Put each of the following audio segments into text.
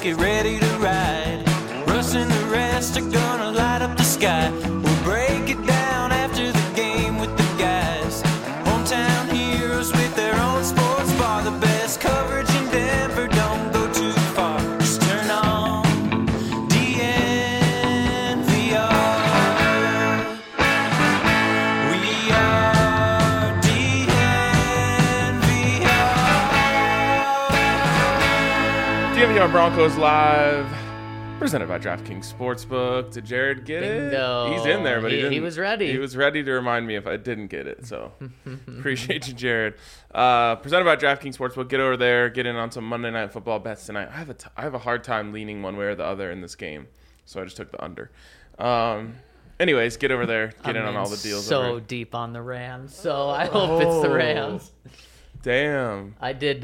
get ready to ride. Russ and the rest are gonna light up the sky. We'll break it down after the game with the guys. Hometown heroes with their own sports bar. The best coverage in Denver, don't go too far. Just turn on DNVR. We are DNVR Broncos Live, presented by DraftKings Sportsbook. Did Jared get Bingo. it? He's in there, but he didn't. He was ready. He was ready to remind me if I didn't get it, so appreciate you, Jared. Presented by DraftKings Sportsbook. Get over there, get in on some Monday Night Football bets tonight. I have a hard time leaning one way or the other in this game, so I just took the under. Anyways, get over there, get in on all the deals. So deep on the Rams, so I hope it's the Rams. Damn. I did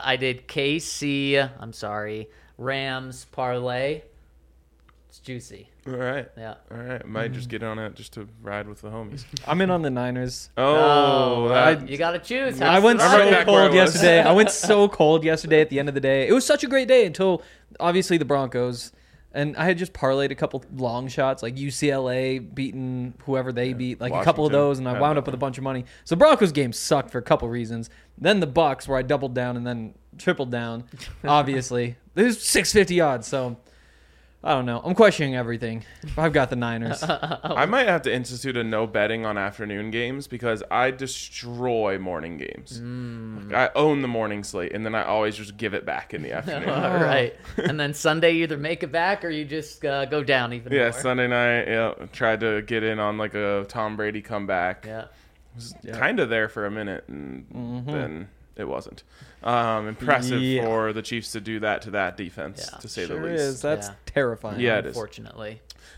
KC. I'm sorry, Rams parlay. It's juicy. All right. Yeah. All right. Might just get on it just to ride with the homies. I'm in on the Niners. You got to choose. I went I'm right so back where I cold was. yesterday. I went so cold yesterday at the end of the day. It was such a great day until, obviously, the Broncos. And I had just parlayed a couple long shots, like UCLA beating whoever they beat, like a couple of Washington those, and I had wound that up with a one. bunch of money. So Broncos game sucked for a couple reasons. Then the Bucks, where I doubled down and then tripled down, obviously. There's 650 odds, so I don't know. I'm questioning everything. I've got the Niners. I might have to institute a no betting on afternoon games because I destroy morning games. I own the morning slate, and then I always just give it back in the afternoon. All right. And then Sunday, you either make it back or you just go down even Yeah, more. Sunday night, tried to get in on like a Tom Brady comeback. Yeah. Was kind of there for a minute, and then it wasn't. Impressive for the Chiefs to do that to that defense, to say the Sure least. is. That's Yeah. terrifying. Yeah, it is. Unfortunately.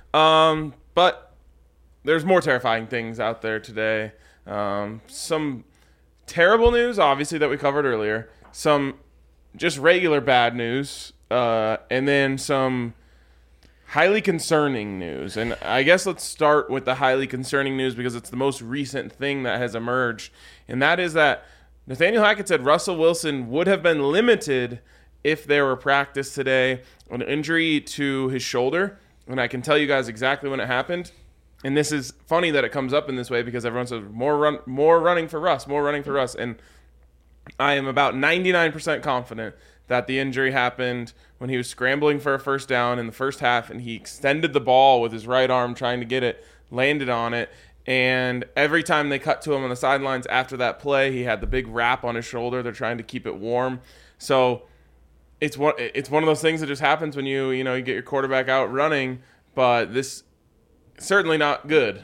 But there's more terrifying things out there today. Some terrible news, obviously, that we covered earlier. Some just regular bad news. And then some highly concerning news. And I guess let's start with the highly concerning news because it's the most recent thing that has emerged. And that is that Nathaniel Hackett said Russell Wilson would have been limited if there were practice today. An injury to his shoulder. And I can tell you guys exactly when it happened. And this is funny that it comes up in this way because everyone says more running for Russ. And I am about 99% confident that the injury happened when he was scrambling for a first down in the first half, and he extended the ball with his right arm trying to get it, landed on it, and every time they cut to him on the sidelines after that play, he had the big wrap on his shoulder. They're trying to keep it warm. So it's one of those things that just happens when you get your quarterback out running, but this certainly not good.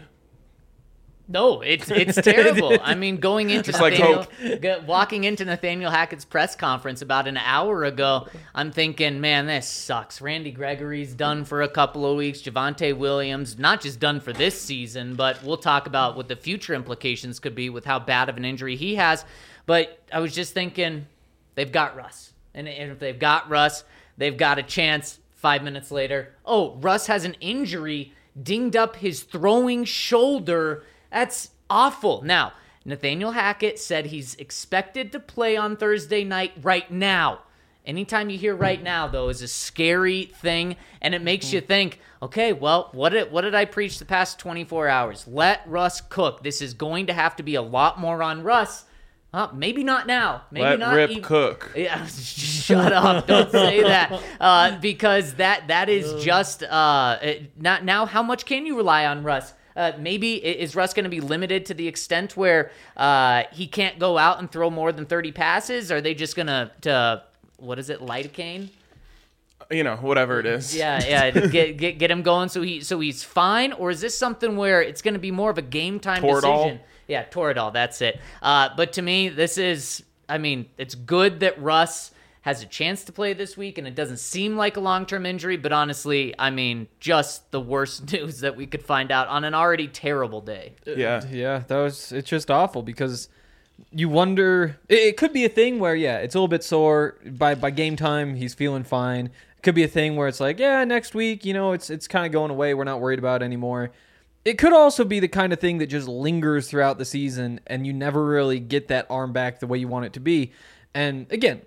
No, it's terrible. I mean, going into Just walking into Nathaniel Hackett's press conference about an hour ago, I'm thinking, man, this sucks. Randy Gregory's done for a couple of weeks. Javonte Williams, not just done for this season, but we'll talk about what the future implications could be with how bad of an injury he has. But I was just thinking, they've got Russ. And if they've got Russ, they've got a chance 5 minutes later. Oh, Russ has an injury, dinged up his throwing shoulder. That's awful. Now, Nathaniel Hackett said he's expected to play on Thursday night right now. Anytime you hear right now, though, is a scary thing, and it makes you think, okay, well, what did I preach the past 24 hours? Let Russ cook. This is going to have to be a lot more on Russ. Maybe not now. Maybe not Rip cook. Yeah, shut up. Don't say that. Because that is just not now. How much can you rely on Russ? Maybe is Russ going to be limited to the extent where he can't go out and throw more than 30 passes? Are they just going to what is it, lidocaine? Whatever it is. Yeah, get him going so he's fine, or is this something where it's going to be more of a game time decision? Yeah, Toradol, that's it. But to me, it's good that Russ has a chance to play this week, and it doesn't seem like a long-term injury, but honestly, just the worst news that we could find out on an already terrible day. Yeah, it's just awful because you wonder, it could be a thing where, it's a little bit sore. By game time, he's feeling fine. It could be a thing where it's like, next week, it's kind of going away. We're not worried about it anymore. It could also be the kind of thing that just lingers throughout the season, and you never really get that arm back the way you want it to be. And again,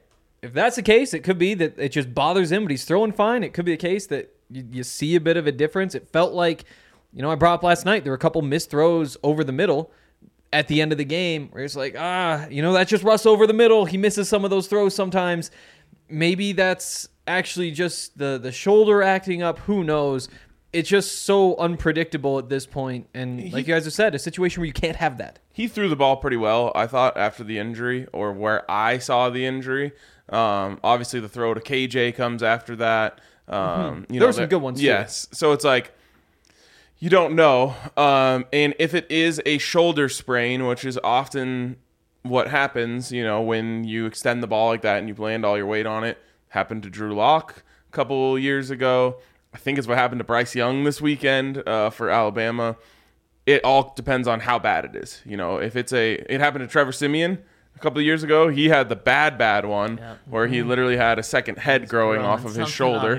if that's the case, it could be that it just bothers him, but he's throwing fine. It could be the case that you see a bit of a difference. It felt like, I brought up last night, there were a couple missed throws over the middle at the end of the game where it's like, that's just Russ over the middle. He misses some of those throws sometimes. Maybe that's actually just the shoulder acting up. Who knows? It's just so unpredictable at this point. And like you guys have said, a situation where you can't have that. He threw the ball pretty well, I thought, after the injury, or where I saw the injury. Obviously, the throw to KJ comes after that. There were some good ones, too. Yes. So it's like, you don't know. And if it is a shoulder sprain, which is often what happens, when you extend the ball like that and you land all your weight on it, happened to Drew Lock a couple years ago. I think it's what happened to Bryce Young this weekend for Alabama. It all depends on how bad it is. If it happened to Trevor Siemian a couple of years ago. He had the bad one where he literally had a second head growing off of his shoulder.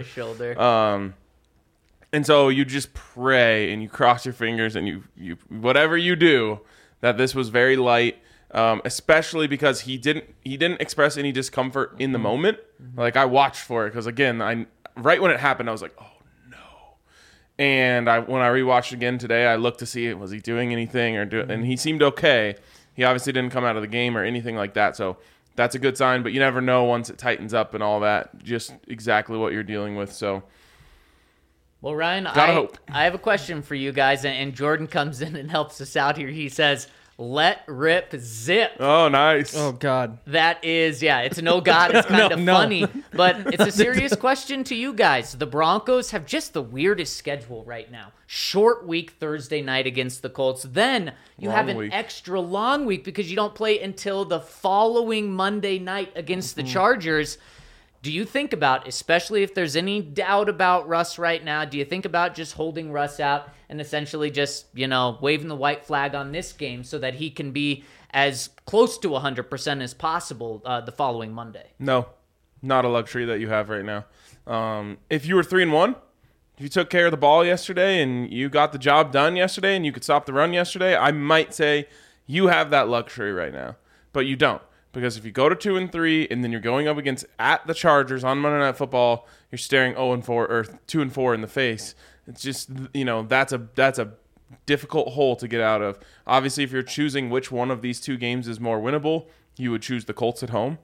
And so you just pray and you cross your fingers and you whatever you do, that this was very light, especially because he didn't express any discomfort in the moment. Like, I watched for it because, again, right when it happened, I was like, oh no. And when I rewatched again today, I looked to see, was he doing anything and he seemed okay. He obviously didn't come out of the game or anything like that, so that's a good sign. But you never know once it tightens up and all that, just exactly what you're dealing with. So. Well, Ryan, I have a question for you guys, and Jordan comes in and helps us out here. He says, let rip zip. Oh, nice. Oh, God. That is, it's no God. It's kind of funny, but it's a serious question to you guys. The Broncos have just the weirdest schedule right now. Short week Thursday night against the Colts. Then you have an extra long week because you don't play until the following Monday night against the Chargers. Do you think about, especially if there's any doubt about Russ right now, do you think about just holding Russ out and essentially just, waving the white flag on this game so that he can be as close to 100% as possible the following Monday? No, not a luxury that you have right now. If you were 3-1, if you took care of the ball yesterday and you got the job done yesterday and you could stop the run yesterday, I might say you have that luxury right now, but you don't. Because if you go to 2-3 and then you're going up against at the Chargers on Monday Night Football, you're staring 0-4 or 2-4 in the face. It's just, that's a difficult hole to get out of. Obviously, if you're choosing which one of these two games is more winnable, you would choose the Colts at home.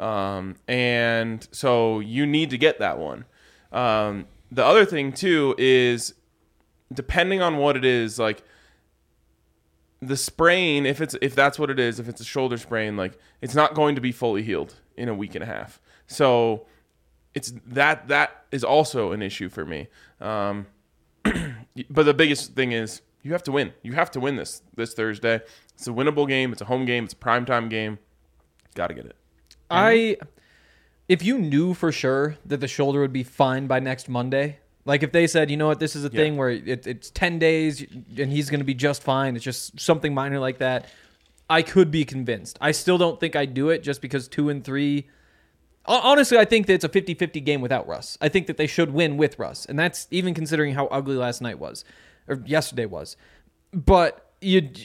And so you need to get that one. The other thing too is, depending on what it is, like, the sprain, if that's what it is, if it's a shoulder sprain, like, it's not going to be fully healed in a week and a half. So it's that is also an issue for me. But the biggest thing is you have to win. You have to win this Thursday. It's a winnable game. It's a home game. It's a primetime game. Got to get it. If you knew for sure that the shoulder would be fine by next Monday, like if they said, you know what, this is a thing where it's 10 days and he's going to be just fine, it's just something minor like that, I could be convinced. I still don't think I'd do it just because 2-3. Honestly, I think that it's a 50-50 game without Russ. I think that they should win with Russ, and that's even considering how ugly last night was, or yesterday was. But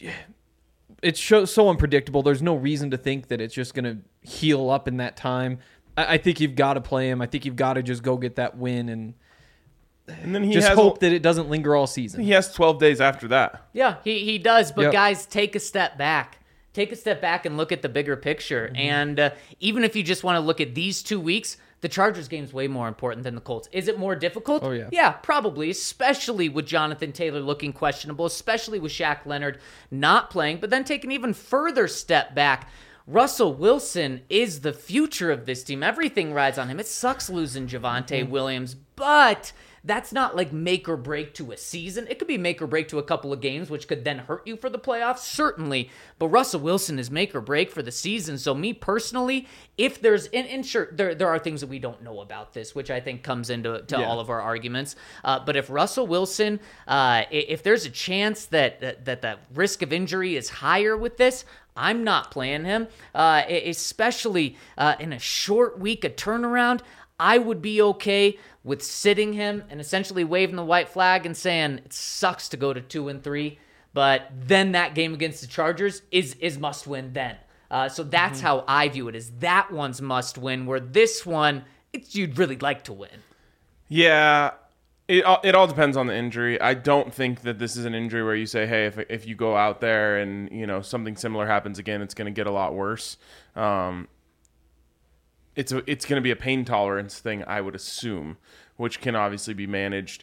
it's so unpredictable. There's no reason to think that it's just going to heal up in that time. I think you've got to play him. I think you've got to just go get that win and then he just hope that it doesn't linger all season. He has 12 days after that. Yeah, he does. But guys, take a step back. Take a step back and look at the bigger picture. And even if you just want to look at these 2 weeks, the Chargers game is way more important than the Colts. Is it more difficult? Oh, yeah. Yeah, probably, especially with Jonathan Taylor looking questionable, especially with Shaq Leonard not playing. But then take an even further step back. Russell Wilson is the future of this team. Everything rides on him. It sucks losing Javonte Williams, but that's not like make or break to a season. It could be make or break to a couple of games, which could then hurt you for the playoffs, certainly. But Russell Wilson is make or break for the season. So me personally, if there's, and sure, there are things that we don't know about this, which I think comes into all of our arguments. But if Russell Wilson, if there's a chance that the risk of injury is higher with this, I'm not playing him, especially in a short week, a turnaround. I would be okay with sitting him and essentially waving the white flag and saying it sucks to go to 2-3, but then that game against the Chargers is must win then. So that's how I view it, is that one's must win, where this one, you'd really like to win. Yeah, it all depends on the injury. I don't think that this is an injury where you say, hey, if you go out there and something similar happens again, it's going to get a lot worse. It's going to be a pain tolerance thing, I would assume, which can obviously be managed.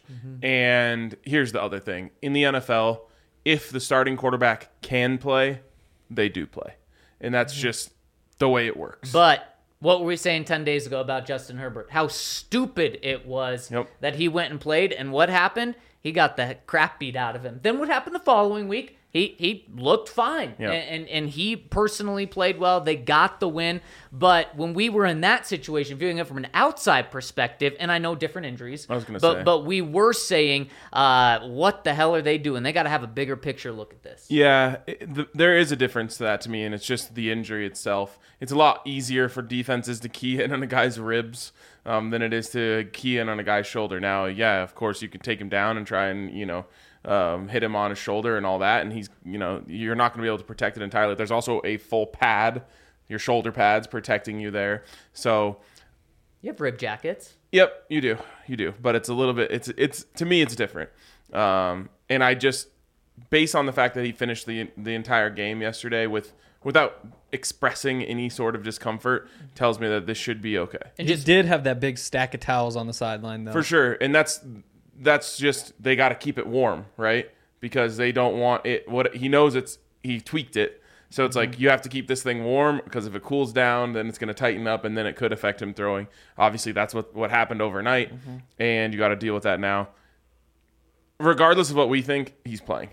And here's the other thing. In the NFL, if the starting quarterback can play, they do play. And that's just the way it works. But what were we saying 10 days ago about Justin Herbert? How stupid it was that he went and played. And what happened? He got the crap beat out of him. Then what happened the following week? He looked fine, and he personally played well. They got the win. But when we were in that situation, viewing it from an outside perspective, and I know different injuries, I was going to say. But we were saying, what the hell are they doing? They got to have a bigger picture look at this. Yeah, there is a difference to that to me, and it's just the injury itself. It's a lot easier for defenses to key in on a guy's ribs than it is to key in on a guy's shoulder. Now, yeah, of course, you can take him down and try and, hit him on his shoulder and all that, and he's, you're not going to be able to protect it entirely. There's also a full pad, your shoulder pads protecting you there. So, you have rib jackets. Yep, you do. But it's a little bit. It's to me, it's different. And I just, based on the fact that he finished the entire game yesterday without expressing any sort of discomfort, tells me that this should be okay. And just did have that big stack of towels on the sideline, though. For sure, and that's just, they got to keep it warm, right? Because they don't want it. What he knows, he tweaked it, so it's like you have to keep this thing warm, because if it cools down, then it's going to tighten up, and then it could affect him throwing. Obviously, that's what happened overnight, and you got to deal with that now. Regardless of what we think, he's playing.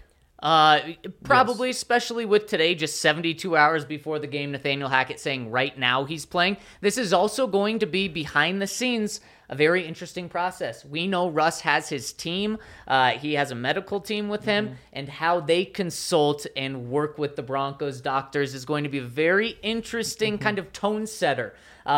Probably, especially with today, just 72 hours before the game, Nathaniel Hackett saying right now he's playing. This is also going to be, behind the scenes, a very interesting process. We know Russ has his team. He has a medical team with him, and how they consult and work with the Broncos doctors is going to be a very interesting kind of tone setter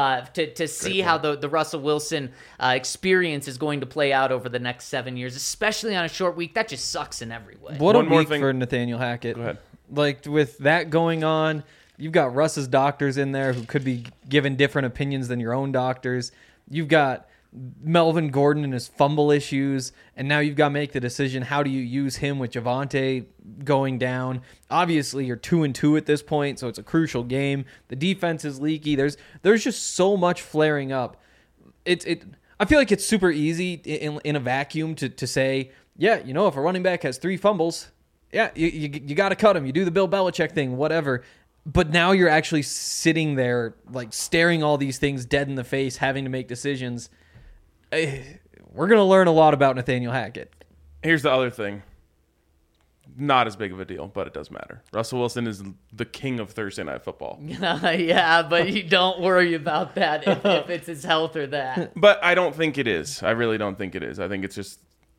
to see how the Russell Wilson experience is going to play out over the next 7 years, especially on a short week. That just sucks in every way. What a week for Nathaniel Hackett. Go ahead. Like, with that going on, you've got Russ's doctors in there who could be given different opinions than your own doctors. You've got Melvin Gordon and his fumble issues, and now you've got to make the decision, how do you use him with Javonte going down? Obviously, you're 2-2 at this point, so it's a crucial game. The defense is leaky. There's just so much flaring up. I feel like it's super easy in a vacuum to say, yeah, if a running back has 3 fumbles, yeah, you got to cut him. You do the Bill Belichick thing, whatever. But now you're actually sitting there, like, staring all these things dead in the face, having to make decisions. We're going to learn a lot about Nathaniel Hackett. Here's the other thing. Not as big of a deal, but it does matter. Russell Wilson is the king of Thursday Night Football. Yeah, but you don't worry about that if it's his health or that. But I don't think it is. I really don't think it is. I think it's just,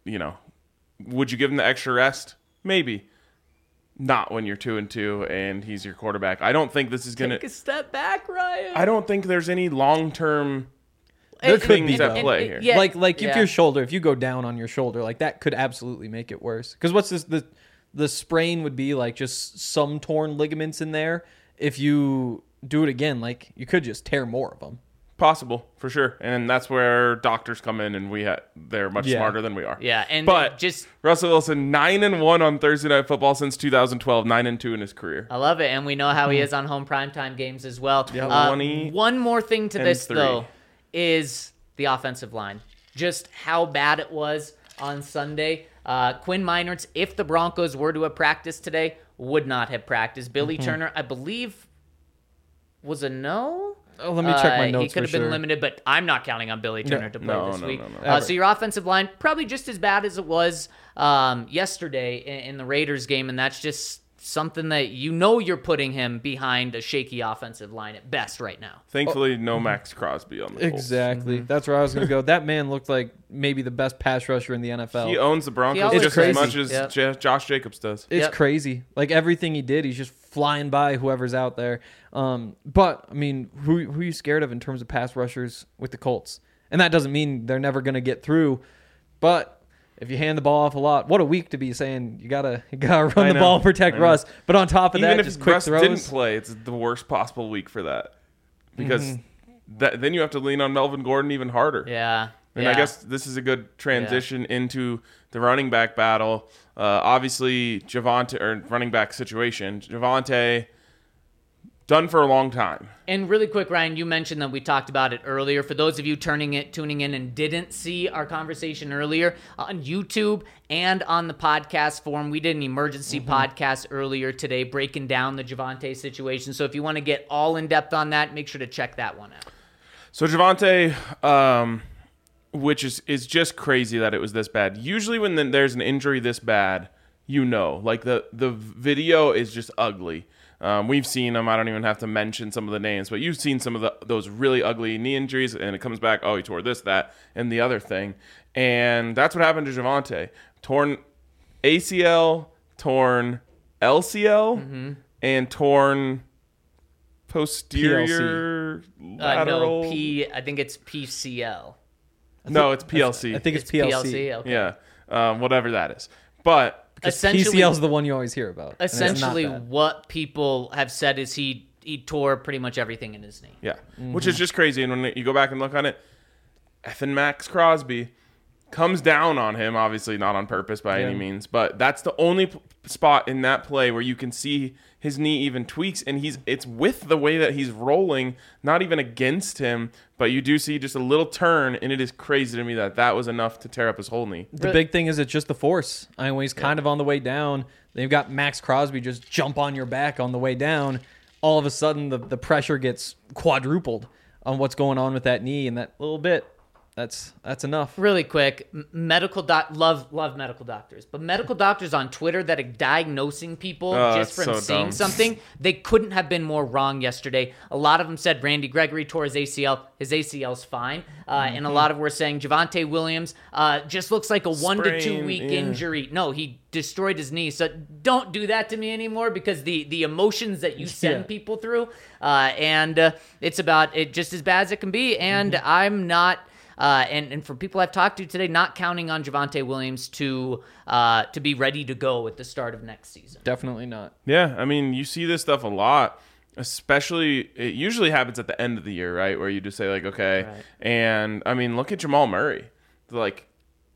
would you give him the extra rest? Maybe. Not when you're 2-2 and he's your quarterback. I don't think this is going to... Take a step back, Ryan. I don't think there's any long-term... There could things be, at play here. Yeah, like if your shoulder, if you go down on your shoulder, like, that could absolutely make it worse. Because what's this? The sprain would be like just some torn ligaments in there. If you do it again, like, you could just tear more of them. Possible, for sure. And that's where doctors come in, and they're much smarter than we are. Yeah, and but just Russell Wilson, 9-1 on Thursday Night Football since 2012, 9-2 in his career. I love it, and we know how he is on home primetime games as well. Yeah, one more thing to this, 3. though, is the offensive line. Just how bad it was on Sunday. Quinn Meinerz, if the Broncos were to have practiced today, would not have practiced. Billy Turner, I believe, was a no. Oh, let me check my notes. He could have been limited, but I'm not counting on Billy Turner to play this week. No. So your offensive line, probably just as bad as it was yesterday in the Raiders game, and that's just something that you're putting him behind a shaky offensive line at best right now. Thankfully, no Max Crosby on the Colts. Exactly. That's where I was going to go. That man looked like maybe the best pass rusher in the NFL. He owns the Broncos just as much as Josh Jacobs does. It's crazy. Like, everything he did, he's just flying by whoever's out there. But, I mean, who are you scared of in terms of pass rushers with the Colts? And that doesn't mean they're never going to get through. But if you hand the ball off a lot, what a week to be saying you gotta run the know. ball, protect I know. Russ. But on top of Even that, if just quick Russ throws. didn't play, it's the worst possible week for that because then you have to lean on Melvin Gordon even harder. Yeah. And I guess this is a good transition into the running back battle. Obviously, Javonte, or running back situation. Javonte, done for a long time. And really quick, Ryan, you mentioned that we talked about it earlier. For those of you tuning in and didn't see our conversation earlier, on YouTube and on the podcast forum, we did an emergency podcast earlier today breaking down the Javonte situation. So if you want to get all in depth on that, make sure to check that one out. So Javonte, which is just crazy that it was this bad. Usually when there's an injury this bad, like the video is just ugly. We've seen them. I don't even have to mention some of the names, but you've seen some of those really ugly knee injuries, and it comes back, oh, he tore this, that, and the other thing. And that's what happened to Javonte. Torn ACL, torn LCL, and torn posterior lateral. No, I think it's PCL. No, it's PLC. I think it's PLC. Okay. Yeah, whatever that is. But Essentially, PCL is the one you always hear about. and it's not essentially that. what people have said is he tore pretty much everything in his knee. yeah, which is just crazy. And when you go back and look on it, effing Max Crosby comes down on him, obviously not on purpose by any means, but that's the only spot in that play where you can see his knee even tweaks, and it's with the way that he's rolling, not even against him, but you do see just a little turn, and it is crazy to me that was enough to tear up his whole knee. The big thing is it's just the force. I mean, when he's kind of on the way down, they've got Max Crosby just jump on your back on the way down. All of a sudden, the pressure gets quadrupled on what's going on with that knee, and that little bit, that's enough. Really quick, love medical doctors, but medical doctors on Twitter that are diagnosing people just from so seeing dumb. something, they couldn't have been more wrong yesterday. A lot of them said Randy Gregory tore his ACL. His ACL's fine. And a lot of them were saying Javonte Williams just looks like a 1 to 2 week injury. No, he destroyed his knee. So don't do that to me anymore, because the emotions that you send people through, and it's about it just as bad as it can be. And I'm not... and for people I've talked to today, not counting on Javonte Williams to be ready to go at the start of next season. Definitely not. Yeah, I mean, you see this stuff a lot, especially it usually happens at the end of the year, right? Where you just say, like, okay. Right. And, I mean, look at Jamal Murray. Like,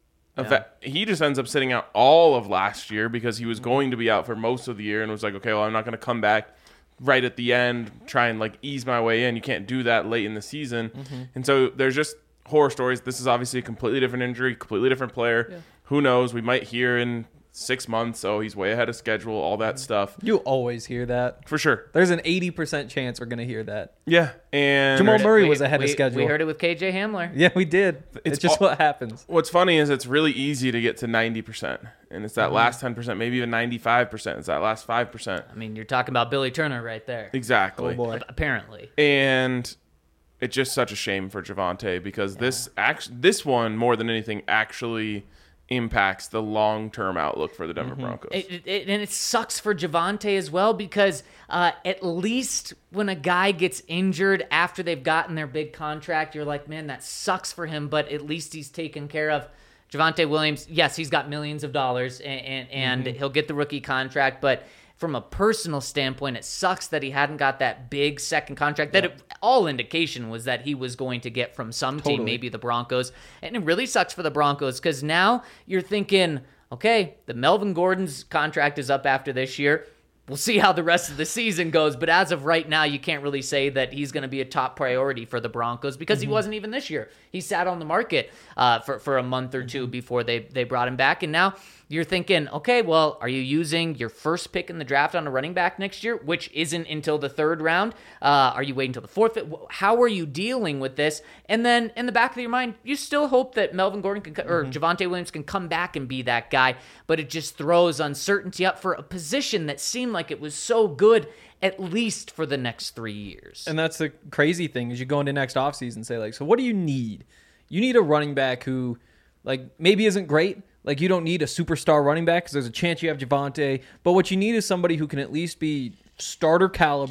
he just ends up sitting out all of last year because he was going to be out for most of the year and was like, okay, well, I'm not going to come back right at the end, try and, like, ease my way in. You can't do that late in the season. And so there's just horror stories. This is obviously a completely different injury, completely different player. Yeah. Who knows? We might hear in 6 months, oh, he's way ahead of schedule, all that stuff. You always hear that. For sure. There's an 80% chance we're going to hear that. Yeah. And Jamal Murray was ahead of schedule. We heard it with KJ Hamler. Yeah, we did. It's just what happens. What's funny is it's really easy to get to 90%. And it's that last 10%, maybe even 95%. It's that last 5%. I mean, you're talking about Billy Turner right there. Exactly. Oh, boy. Apparently. And it's just such a shame for Javonte because this one, more than anything, actually impacts the long-term outlook for the Denver Broncos. And it sucks for Javonte as well, because at least when a guy gets injured after they've gotten their big contract, you're like, man, that sucks for him, but at least he's taken care of. Javonte Williams, yes, he's got millions of dollars, and he'll get the rookie contract, but from a personal standpoint, it sucks that he hadn't got that big second contract that all indication was that he was going to get from some team, maybe the Broncos. And it really sucks for the Broncos because now you're thinking, okay, the Melvin Gordon's contract is up after this year. We'll see how the rest of the season goes. But as of right now, you can't really say that he's going to be a top priority for the Broncos because he wasn't even this year. He sat on the market for a month or two before they brought him back. And now you're thinking, okay, well, are you using your first pick in the draft on a running back next year, which isn't until the third round? Are you waiting until the fourth? How are you dealing with this? And then in the back of your mind, you still hope that Melvin Gordon or Javonte Williams can come back and be that guy, but it just throws uncertainty up for a position that seemed like it was so good, at least for the next 3 years. And that's the crazy thing is you go into next offseason and say, like, so what do you need? You need a running back who, like, maybe isn't great. Like, you don't need a superstar running back because there's a chance you have Javonte. But what you need is somebody who can at least be starter caliber,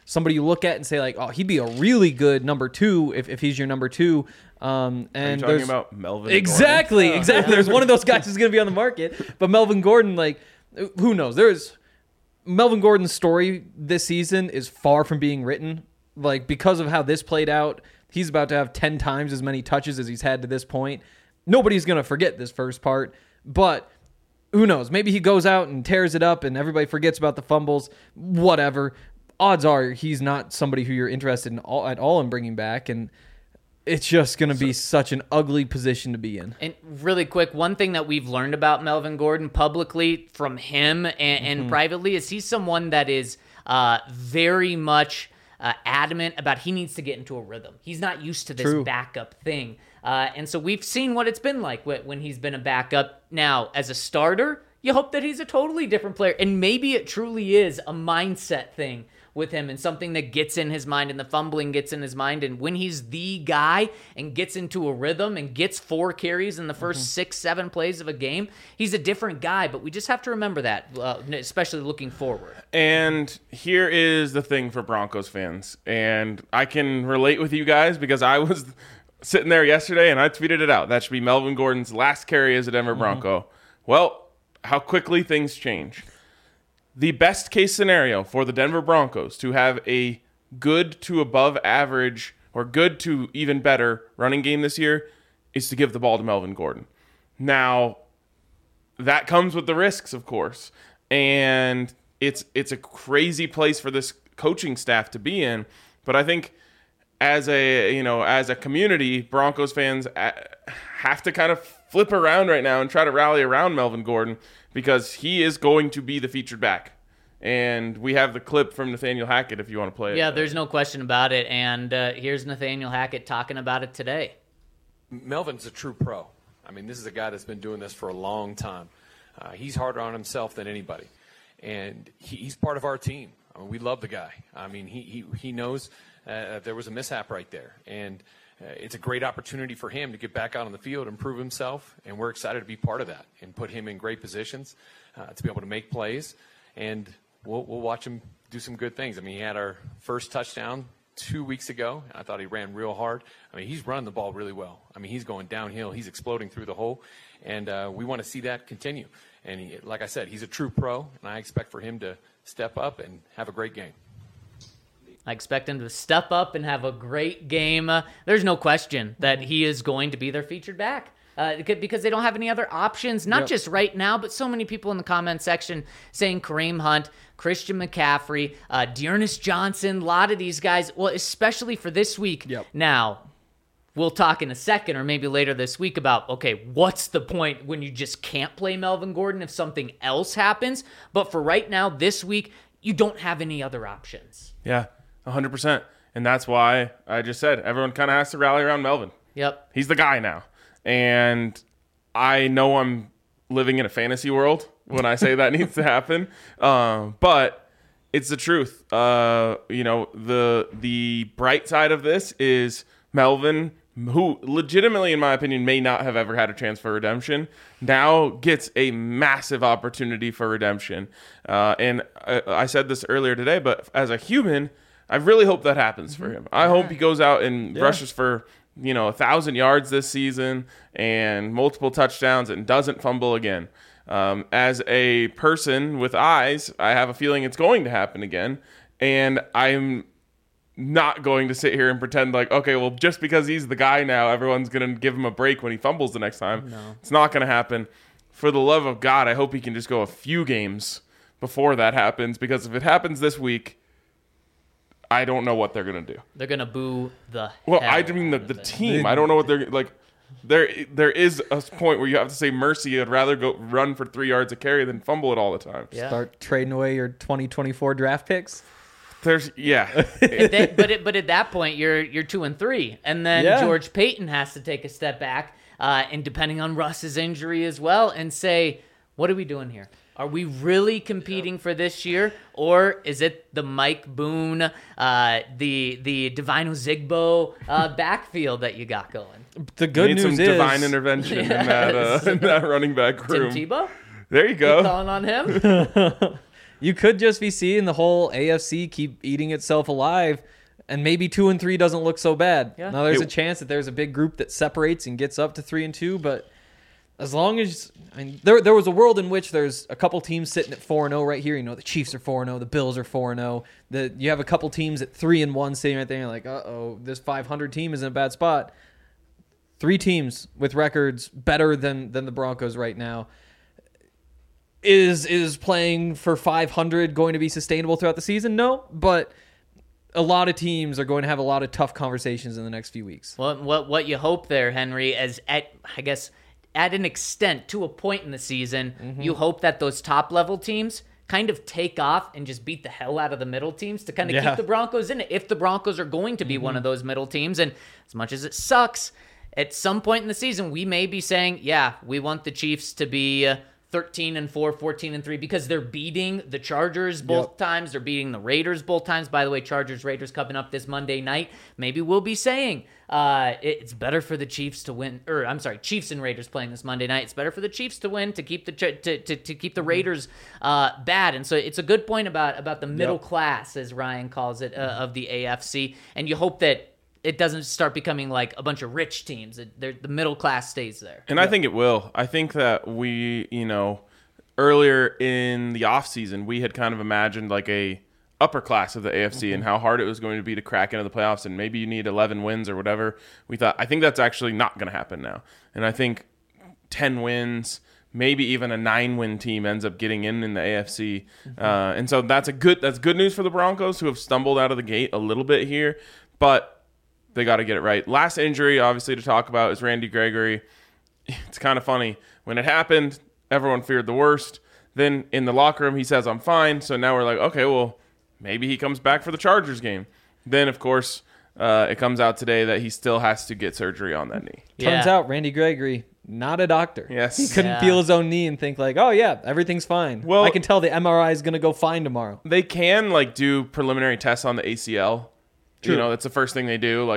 somebody you look at and say like, oh, he'd be a really good number 2 if he's your number 2. And Are you talking there's about Melvin exactly. There's one of those guys who's going to be on the market, but Melvin Gordon, like, who knows? Melvin Gordon's story this season is far from being written. Like, because of how this played out, he's about to have 10 times as many touches as he's had to this point. Nobody's going to forget this first part, but who knows? Maybe he goes out and tears it up and everybody forgets about the fumbles, whatever. Odds are he's not somebody who you're interested in at all in bringing back, and it's just going to be such an ugly position to be in. And really quick, one thing that we've learned about Melvin Gordon publicly from him and privately is he's someone that is very much adamant about he needs to get into a rhythm. He's not used to this backup thing. And so we've seen what it's been like when he's been a backup. Now, as a starter, you hope that he's a totally different player. And maybe it truly is a mindset thing with him and something that gets in his mind and the fumbling gets in his mind. And when he's the guy and gets into a rhythm and gets 4 carries in the first 6-7 plays of a game, he's a different guy. But we just have to remember that, especially looking forward. And here is the thing for Broncos fans. And I can relate with you guys because I was sitting there yesterday and I tweeted it out. That should be Melvin Gordon's last carry as a Denver Bronco. Well, how quickly things change. The best case scenario for the Denver Broncos to have a good to above average or good to even better running game this year is to give the ball to Melvin Gordon. Now, that comes with the risks, of course. And it's a crazy place for this coaching staff to be in. But I think as a community, Broncos fans have to kind of flip around right now and try to rally around Melvin Gordon because he is going to be the featured back. And we have the clip from Nathaniel Hackett if you want to play it. Yeah, there's no question about it. And here's Nathaniel Hackett talking about it today. Melvin's a true pro. I mean, this is a guy that's been doing this for a long time. He's harder on himself than anybody. And he's part of our team. I mean, we love the guy. I mean, he knows there was a mishap right there. And it's a great opportunity for him to get back out on the field and prove himself, and we're excited to be part of that and put him in great positions to be able to make plays, and we'll watch him do some good things. I mean, he had our first touchdown 2 weeks ago, and I thought he ran real hard. I mean, he's running the ball really well. I mean, he's going downhill. He's exploding through the hole, and we want to see that continue. And like I said, he's a true pro, and I expect for him to step up and have a great game. I expect him to step up and have a great game. There's no question that he is going to be their featured back because they don't have any other options, not just right now, but so many people in the comment section saying Kareem Hunt, Christian McCaffrey, Dearness Johnson, a lot of these guys, well, especially for this week. Now, we'll talk in a second or maybe later this week about, okay, what's the point when you just can't play Melvin Gordon if something else happens? But for right now, this week, you don't have any other options. Yeah. 100%. And that's why I just said everyone kind of has to rally around Melvin. Yep. He's the guy now. And I know I'm living in a fantasy world when I say that needs to happen. But it's the truth. The bright side of this is Melvin, who legitimately, in my opinion, may not have ever had a chance for redemption, now gets a massive opportunity for redemption. And I said this earlier today, but as a human, I really hope that happens for him. I hope he goes out and rushes for 1,000 yards this season and multiple touchdowns and doesn't fumble again. As a person with eyes, I have a feeling it's going to happen again, and I'm not going to sit here and pretend like, okay, well, just because he's the guy now, everyone's going to give him a break when he fumbles the next time. No. It's not going to happen. For the love of God, I hope he can just go a few games before that happens, because if it happens this week, I don't know what they're going to do. They're going to boo the Well, I mean the team. I don't know what they're like. There is a point where you have to say mercy. I'd rather go run for 3 yards a carry than fumble it all the time. Yeah. Start trading away your 2024 draft picks. But at that point you're 2-3, and then George Payton has to take a step back, and depending on Russ's injury as well, and say, what are we doing here? Are we really competing for this year, or is it the Mike Boone, the Divine Ozigbo backfield that you got going? The good news is divine intervention in that running back room. Tim Tebow? There you go. You calling on him? you could just be seeing the whole AFC keep eating itself alive, and maybe 2-3 doesn't look so bad. Yeah. Now there's a chance that there's a big group that separates and gets up to 3-2, but as long as there was a world in which there's a couple teams sitting at 4-0 right here. You know, the Chiefs are 4-0, the Bills are 4-0. You have a couple teams at 3-1 sitting right there. And you're like, this 500 team is in a bad spot. 3 teams with records better than the Broncos right now. Is playing for 500 going to be sustainable throughout the season? No, but a lot of teams are going to have a lot of tough conversations in the next few weeks. Well, what you hope there, Henry, is at an extent, to a point in the season, you hope that those top-level teams kind of take off and just beat the hell out of the middle teams to kind of keep the Broncos in it, if the Broncos are going to be one of those middle teams. And as much as it sucks, at some point in the season, we may be saying, yeah, we want the Chiefs to be 13-4, 14-3, because they're beating the Chargers both times. They're beating the Raiders both times. By the way, Chargers-Raiders coming up this Monday night. Maybe we'll be saying it's better for the Chiefs to win. Or I'm sorry, Chiefs and Raiders playing this Monday night. It's better for the Chiefs to win to keep the to keep the Raiders bad. And so it's a good point about the middle class, as Ryan calls it, of the AFC. And you hope that it doesn't start becoming like a bunch of rich teams. The middle class stays there. And I think it will. I think that we, earlier in the offseason, we had kind of imagined like a upper class of the AFC and how hard it was going to be to crack into the playoffs, and maybe you need 11 wins or whatever. I think that's actually not going to happen now. And I think 10 wins, maybe even a 9-win team ends up getting in the AFC. And so that's good news for the Broncos, who have stumbled out of the gate a little bit here, but they got to get it right. Last injury, obviously, to talk about is Randy Gregory. It's kind of funny. When it happened, everyone feared the worst. Then in the locker room, he says, I'm fine. So now we're like, okay, well, maybe he comes back for the Chargers game. Then, of course, it comes out today that he still has to get surgery on that knee. Turns out Randy Gregory, not a doctor. Yes. He couldn't feel his own knee and think like, oh, yeah, everything's fine. Well, I can tell the MRI is going to go fine tomorrow. They can do preliminary tests on the ACL. True. That's the first thing they do.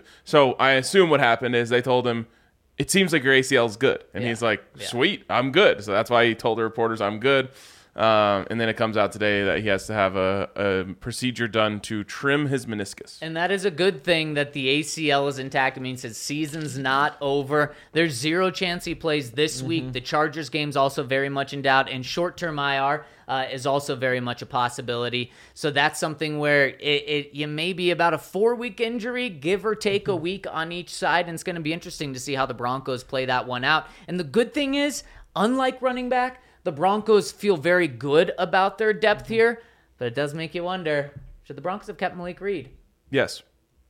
So I assume what happened is they told him, it seems like your ACL is good. And he's like, sweet, I'm good. So that's why he told the reporters, I'm good. And then it comes out today that he has to have a procedure done to trim his meniscus. And that is a good thing that the ACL is intact. It means his season's not over. There's zero chance he plays this week. The Chargers game's also very much in doubt. And short-term IR is also very much a possibility. So that's something where you may be about a 4-week injury, give or take a week on each side. And it's going to be interesting to see how the Broncos play that one out. And the good thing is, unlike running back, the Broncos feel very good about their depth here, but it does make you wonder, should the Broncos have kept Malik Reed? Yes.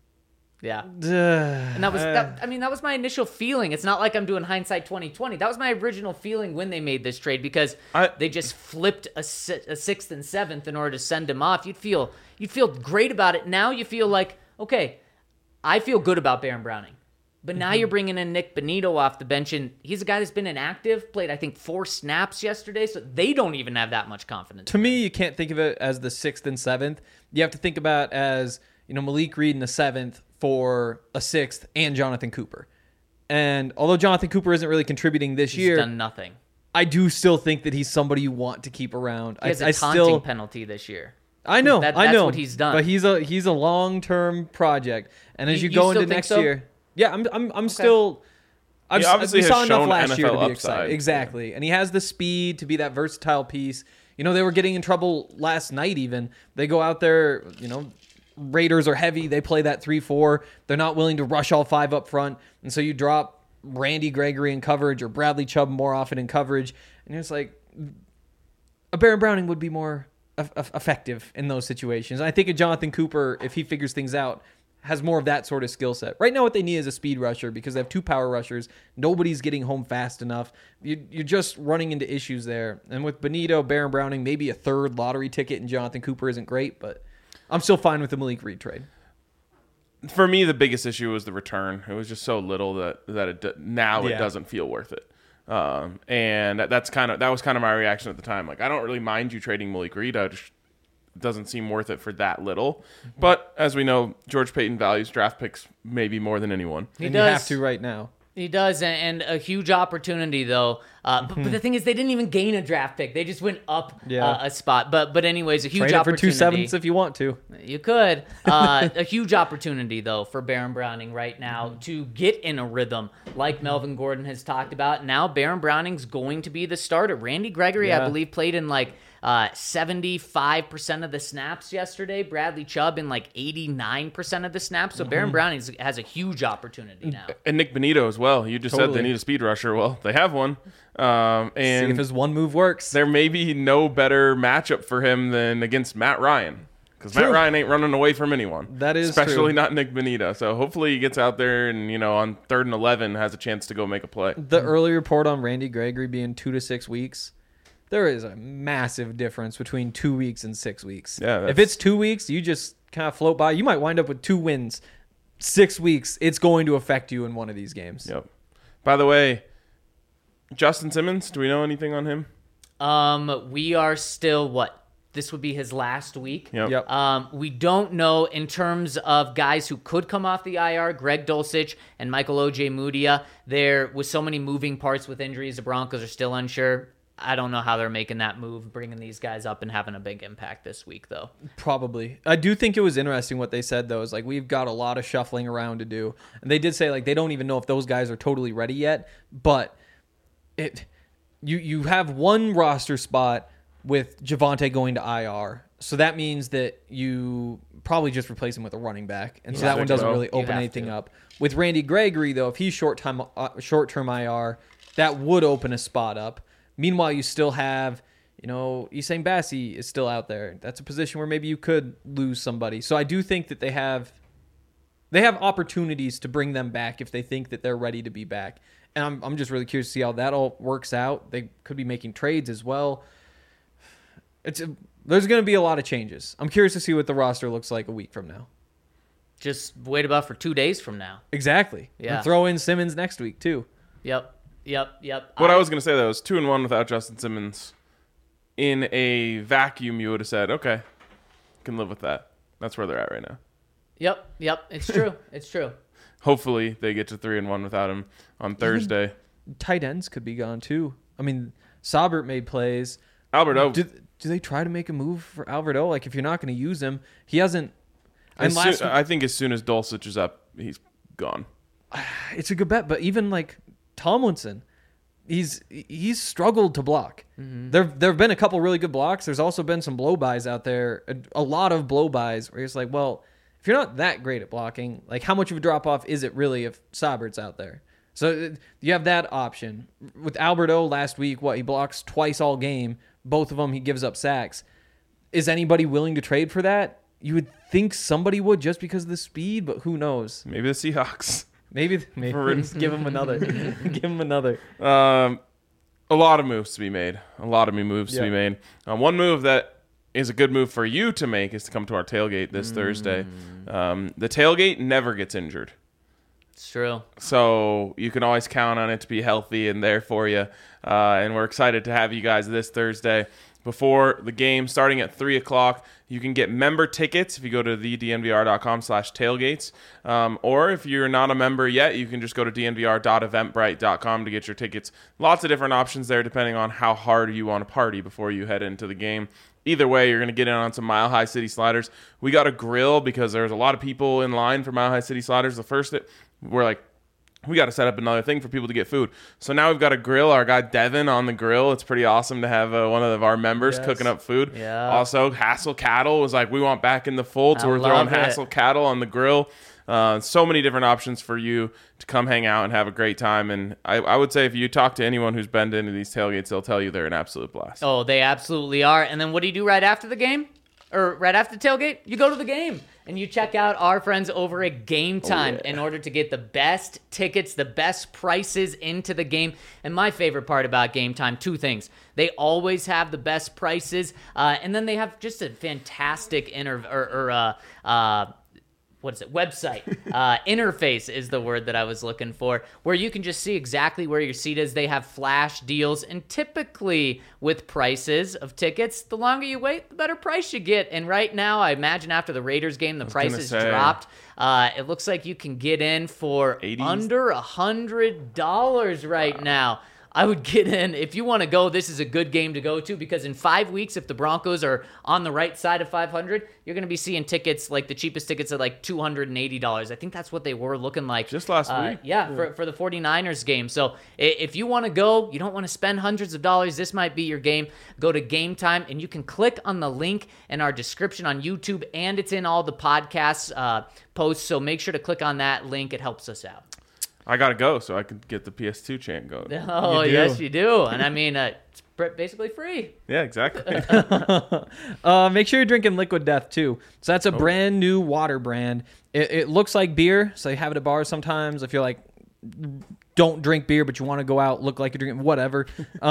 Yeah. And that was my initial feeling. It's not like I'm doing hindsight 2020. That was my original feeling when they made this trade, because they just flipped a 6th and 7th in order to send him off. You'd feel great about it. Now you feel like, okay, I feel good about Baron Browning. But now you're bringing in Nick Bonito off the bench, and he's a guy that's been inactive, played, I think, 4 snaps yesterday, so they don't even have that much confidence. To me, you can't think of it as the 6th and 7th. You have to think about it as, Malik Reed in the 7th for a 6th and Jonathan Cooper. And although Jonathan Cooper isn't really contributing this year, he's done nothing. I do still think that he's somebody you want to keep around. He has a taunting penalty this year. I know. That's what he's done. But he's a long-term project. And as you go into next year... Yeah, I'm still. He obviously we saw has enough shown last year to NFL be excited. upside. Exactly, and he has the speed to be that versatile piece. They were getting in trouble last night. Even they go out there. Raiders are heavy. They play that 3-4. They're not willing to rush all 5 up front, and so you drop Randy Gregory in coverage or Bradley Chubb more often in coverage, and it's like a Baron Browning would be more effective in those situations. And I think a Jonathan Cooper, if he figures things out, has more of that sort of skill set. Right now what they need is a speed rusher, because they have 2 power rushers. Nobody's getting home fast enough. You're just running into issues there. And with Bonito, Baron Browning, maybe a 3rd lottery ticket, and Jonathan Cooper isn't great, but I'm still fine with the Malik Reed trade. For me, the biggest issue was the return. It was just so little that it doesn't feel worth it. And that was kind of my reaction at the time. Like, I don't really mind you trading Malik Reed. It doesn't seem worth it for that little. But as we know, George Payton values draft picks maybe more than anyone. You have to right now. He does, and a huge opportunity, though. But the thing is, they didn't even gain a draft pick. They just went up a spot. But anyways, a huge Trade it for opportunity. 2 7s if you want to. You could. A huge opportunity, though, for Baron Browning right now to get in a rhythm, like Melvin Gordon has talked about. Now Baron Browning's going to be the starter. Randy Gregory, I believe, played in 75% of the snaps yesterday. Bradley Chubb in 89% of the snaps. So Baron Browning has a huge opportunity now. And Nick Benito as well. You just said they need a speed rusher. Well, they have one. And See if his one move works. there may be no better matchup for him than against Matt Ryan. Because Matt Ryan ain't running away from anyone. That is especially true. not Nick Benito. So hopefully he gets out there and, on 3rd and 11 has a chance to go make a play. The early report on Randy Gregory being 2 to 6 weeks, there is a massive difference between 2 weeks and 6 weeks. Yeah, if it's 2 weeks, you just kind of float by. You might wind up with 2 wins. 6 weeks, it's going to affect you in one of these games. Yep. By the way, Justin Simmons, do we know anything on him? We are still, this would be his last week. Yep. We don't know in terms of guys who could come off the IR, Greg Dulcich and Michael Ojemudia. There with so many moving parts with injuries, the Broncos are still unsure. I don't know how they're making that move, bringing these guys up and having a big impact this week, though. Probably. I do think it was interesting what they said, though, is we've got a lot of shuffling around to do. And they did say, they don't even know if those guys are totally ready yet. But you have one roster spot with Javonte going to IR. So that means that you probably just replace him with a running back. And so that one doesn't really open anything up. With Randy Gregory, though, if he's short-term IR, that would open a spot up. Meanwhile, you still have, Essang Bassey is still out there. That's a position where maybe you could lose somebody. So I do think that they have opportunities to bring them back if they think that they're ready to be back. And I'm just really curious to see how that all works out. They could be making trades as well. There's going to be a lot of changes. I'm curious to see what the roster looks like a week from now. Just wait about for 2 days from now. Exactly. Yeah. And throw in Simmons next week, too. Yep. What I was going to say, though, is 2-1 without Justin Simmons. In a vacuum, you would have said, okay, can live with that. That's where they're at right now. Yep. It's true. It's true. Hopefully they get to 3-1 without him on Thursday. Tight ends could be gone, too. I mean, Saubert made plays. Albert O. Do they try to make a move for Albert O? If you're not going to use him, he hasn't. I think as soon as Dulcich is up, he's gone. It's a good bet, but even Tomlinson, he's struggled to block. Mm-hmm. There have been a couple really good blocks. There's also been some blow-bys out there, a lot of blow-bys where it's well, if you're not that great at blocking, how much of a drop-off is it really if Saubert's out there? So you have that option. With Albert O last week, he blocks twice all game. Both of them, he gives up sacks. Is anybody willing to trade for that? You would think somebody would just because of the speed, but who knows? Maybe the Seahawks. Maybe give him another. Give him another. A lot of moves to be made. To be made. One move that is a good move for you to make is to come to our tailgate this Thursday. The tailgate never gets injured. It's true. So you can always count on it to be healthy and there for you. And we're excited to have you guys this Thursday. Before the game, starting at 3 o'clock, you can get member tickets if you go to thednvr.com/tailgates. Or if you're not a member yet, you can just go to dnvr.eventbrite.com to get your tickets. Lots of different options there depending on how hard you want to party before you head into the game. Either way, you're going to get in on some Mile High City Sliders. We got a grill because there's a lot of people in line for Mile High City Sliders. The first, we're we got to set up another thing for people to get food. So now we've got a grill. Our guy Devin on the grill. It's pretty awesome to have one of our members cooking up food. Yeah. Also, Hassel Cattle was we want back in the fold, so we're throwing Hassel Cattle on the grill. So many different options for you to come hang out and have a great time. And I would say if you talk to anyone who's been into these tailgates, they'll tell you they're an absolute blast. Oh, they absolutely are. And then what do you do right after the game? Or right after the tailgate? You go to the game. And you check out our friends over at Game Time in order to get the best tickets, the best prices into the game. And my favorite part about Game Time, two things. They always have the best prices, and then they have just a fantastic website. Interface is the word that I was looking for, where you can just see exactly where your seat is. They have flash deals, and typically with prices of tickets, the longer you wait, the better price you get. And right now, I imagine after the Raiders game, the prices dropped. It looks like you can get in for 80s? under $100 right now. I would get in. If you want to go, this is a good game to go to because in 5 weeks, if the Broncos are on the right side of 500, you're going to be seeing tickets like the cheapest tickets at like $280. I think that's what they were looking like Just last week. Yeah, for the 49ers game. So if you want to go, you don't want to spend hundreds of dollars, this might be your game. Go to Game Time, and you can click on the link in our description on YouTube, and it's in all the podcasts posts. So make sure to click on that link. It helps us out. I gotta go so I could get the PS2 chant going. Oh, yes, you do. And I mean, it's basically free. Yeah, exactly. Make sure you're drinking Liquid Death too. So that's a brand new water brand. It looks like beer, so you have it at bars sometimes. If you're like, don't drink beer, but you want to go out, look like you're drinking whatever.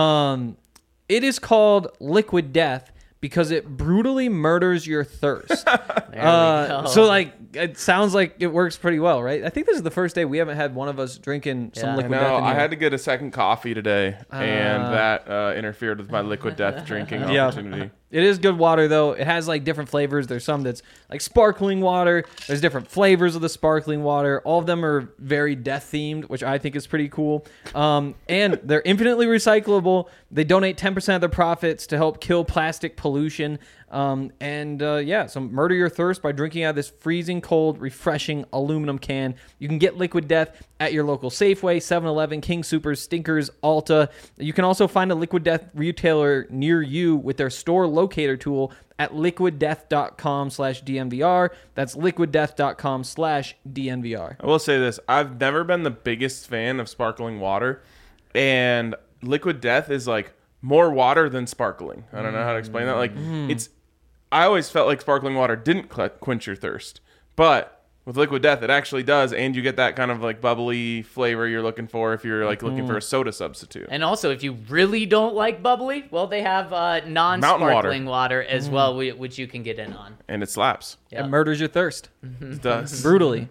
It is called Liquid Death because it brutally murders your thirst. There we go. So like, it sounds like it works pretty well, right? I think this is the first day we haven't had one of us drinking some Yeah. Liquid No, Death. in I here. had to get a second coffee today, and that interfered with my Liquid Death drinking Yeah. opportunity. It is good water, though. It has, like, different flavors. There's some that's, like, sparkling water. There's different flavors of the sparkling water. All of them are very death-themed, which I think is pretty cool. And they're infinitely recyclable. They donate 10% of their profits to help kill plastic pollution. So murder your thirst by drinking out of this freezing cold, refreshing aluminum can. You can get Liquid Death at your local Safeway, 7-Eleven, King Soopers, Stinkers, Ulta. You can also find a Liquid Death retailer near you with their store locator tool at liquiddeath.com/DNVR. That's liquiddeath.com/DNVR. I will say this. I've never been the biggest fan of sparkling water, and Liquid Death is like more water than sparkling. I don't know how to explain that. Like I always felt like sparkling water didn't quench your thirst, but with Liquid Death, it actually does, and you get that kind of like bubbly flavor you're looking for if you're like looking for a soda substitute. And also, if you really don't like bubbly, well, they have non-sparkling water as well, which you can get in on. And it slaps. Yep. It murders your thirst. It does. Brutally.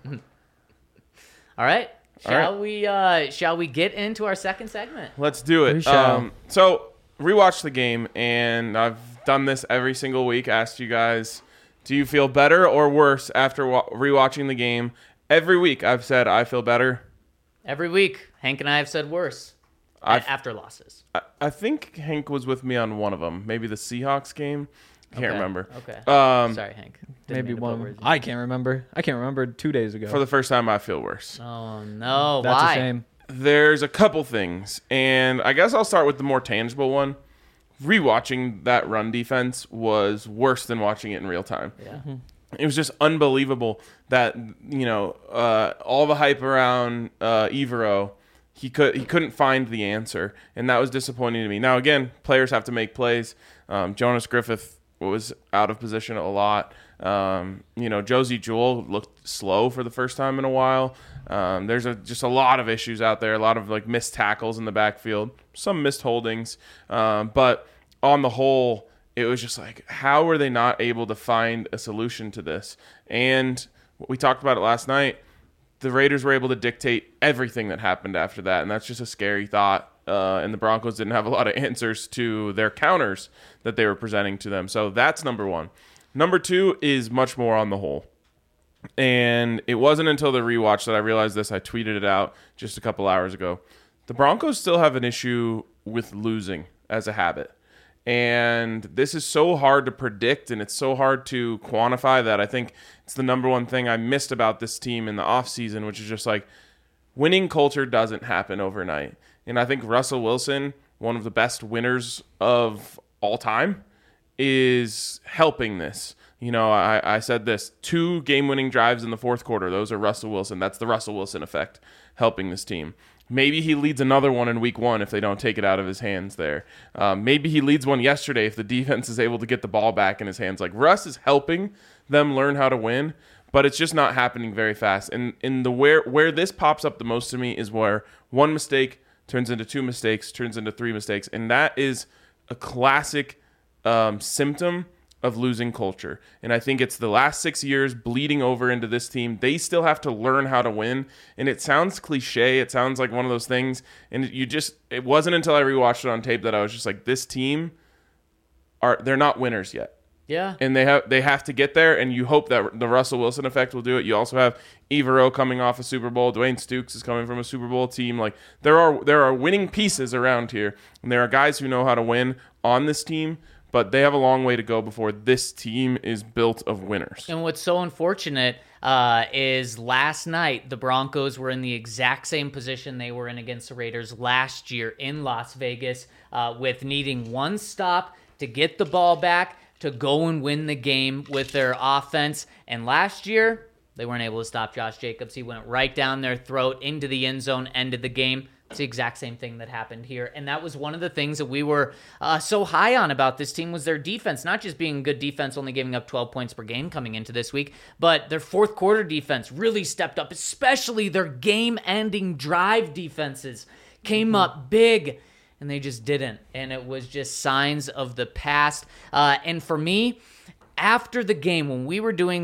All right. All Shall we get into our second segment? Let's do We it. shall. So rewatch the game, and I've done this every single week. Asked you guys, do you feel better or worse after rewatching the game? Every week I've said I feel better. Every week, Hank and I have said worse after losses. I think Hank was with me on one of them. Maybe the Seahawks game. Can't Okay. remember. Okay. Um, Sorry, Hank. Didn't Maybe mean to put one. words in. I can't remember. I can't remember 2 days ago. For the first time, I feel worse. Oh no! That's Why? a shame. There's a couple things, and I guess I'll start with the more tangible one. Rewatching that run defense was worse than watching it in real time. Yeah. It was just unbelievable that all the hype around Evero, he couldn't find the answer, and that was disappointing to me. Now again, players have to make plays. Jonas Griffith was out of position a lot. Josie Jewell looked slow for the first time in a while. There's just a lot of issues out there, a lot of like missed tackles in the backfield, some missed holdings, but on the whole, it was just like, how were they not able to find a solution to this? And we talked about it last night. The Raiders were able to dictate everything that happened after that, and that's just a scary thought. And the Broncos didn't have a lot of answers to their counters that they were presenting to them. So that's number one. Number two is much more on the whole. And it wasn't until the rewatch that I realized this. I tweeted it out just a couple hours ago. The Broncos still have an issue with losing as a habit. And this is so hard to predict, and it's so hard to quantify that I think it's the number one thing I missed about this team in the offseason, which is just like winning culture doesn't happen overnight. And I think Russell Wilson, one of the best winners of all time, is helping this. I said this, 2 game-winning drives in the fourth quarter. Those are Russell Wilson. That's the Russell Wilson effect helping this team. Maybe he leads another one in week 1 if they don't take it out of his hands there. Maybe he leads one yesterday if the defense is able to get the ball back in his hands. Like, Russ is helping them learn how to win, but it's just not happening very fast. And where this pops up the most to me is where one mistake turns into 2 mistakes, turns into 3 mistakes. And that is a classic symptom of losing culture. And I think it's the last 6 years bleeding over into this team. They still have to learn how to win. And it sounds cliche. It sounds like one of those things. And it wasn't until I rewatched it on tape that I was just like, this team, they're not winners yet. Yeah. And they have to get there, and you hope that the Russell Wilson effect will do it. You also have Evero coming off a Super Bowl. Dwayne Stukes is coming from a Super Bowl team. Like there are winning pieces around here, and there are guys who know how to win on this team, but they have a long way to go before this team is built of winners. And what's so unfortunate is last night the Broncos were in the exact same position they were in against the Raiders last year in Las Vegas, with needing one stop to get the ball back, to go and win the game with their offense. And last year, they weren't able to stop Josh Jacobs. He went right down their throat into the end zone, ended the game. It's the exact same thing that happened here. And that was one of the things that we were so high on about this team was their defense. Not just being good defense, only giving up 12 points per game coming into this week, but their fourth quarter defense really stepped up, especially their game-ending drive defenses came up big. And they just didn't. And it was just signs of the past. And for me, after the game, when we were doing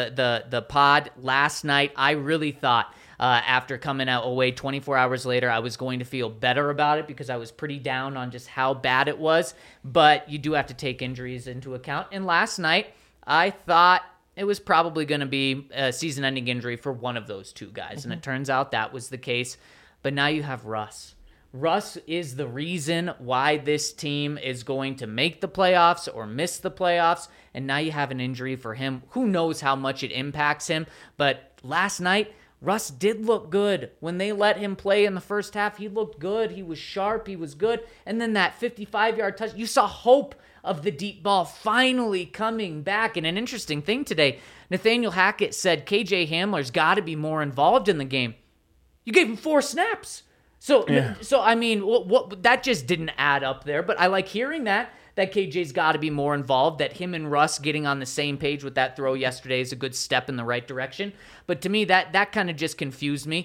the pod last night, I really thought after coming out away 24 hours later, I was going to feel better about it because I was pretty down on just how bad it was. But you do have to take injuries into account. And last night, I thought it was probably going to be a season-ending injury for one of those two guys. And it turns out that was the case. But now you have Russ. Russ is the reason why this team is going to make the playoffs or miss the playoffs, and now you have an injury for him. Who knows how much it impacts him, but last night, Russ did look good. When they let him play in the first half, he looked good. He was sharp. He was good. And then that 55-yard touch, you saw hope of the deep ball finally coming back. And an interesting thing today, Nathaniel Hackett said KJ Hamler's got to be more involved in the game. You gave him 4 snaps. So I mean, what that just didn't add up there. But I like hearing that KJ's got to be more involved, that him and Russ getting on the same page with that throw yesterday is a good step in the right direction. But to me, that kind of just confused me.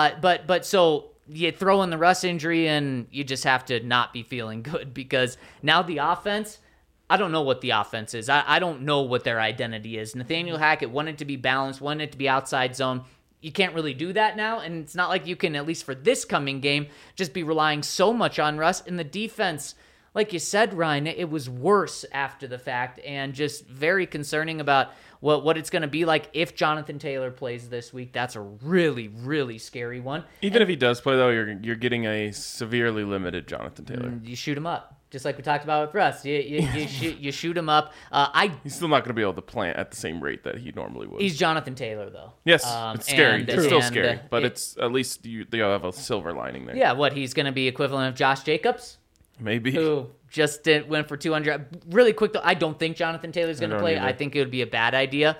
But so you throw in the Russ injury and you just have to not be feeling good because now the offense, I don't know what the offense is. I don't know what their identity is. Nathaniel Hackett wanted to be balanced, wanted it to be outside zone. You can't really do that now, and it's not like you can, at least for this coming game, just be relying so much on Russ. In the defense, like you said, Ryan, it was worse after the fact, and just very concerning about what it's going to be like if Jonathan Taylor plays this week. That's a really, really scary one. Even if he does play, though, you're getting a severely limited Jonathan Taylor. You shoot him up. Just like we talked about with Russ, you shoot him up. He's still not going to be able to plant at the same rate that he normally would. He's Jonathan Taylor, though. Yes, it's scary. It's still scary, but it's at least they have a silver lining there. Yeah, he's going to be equivalent of Josh Jacobs? Maybe. Who just went for 200. Really quick, though, I don't think Jonathan Taylor's going to play. Either. I think it would be a bad idea.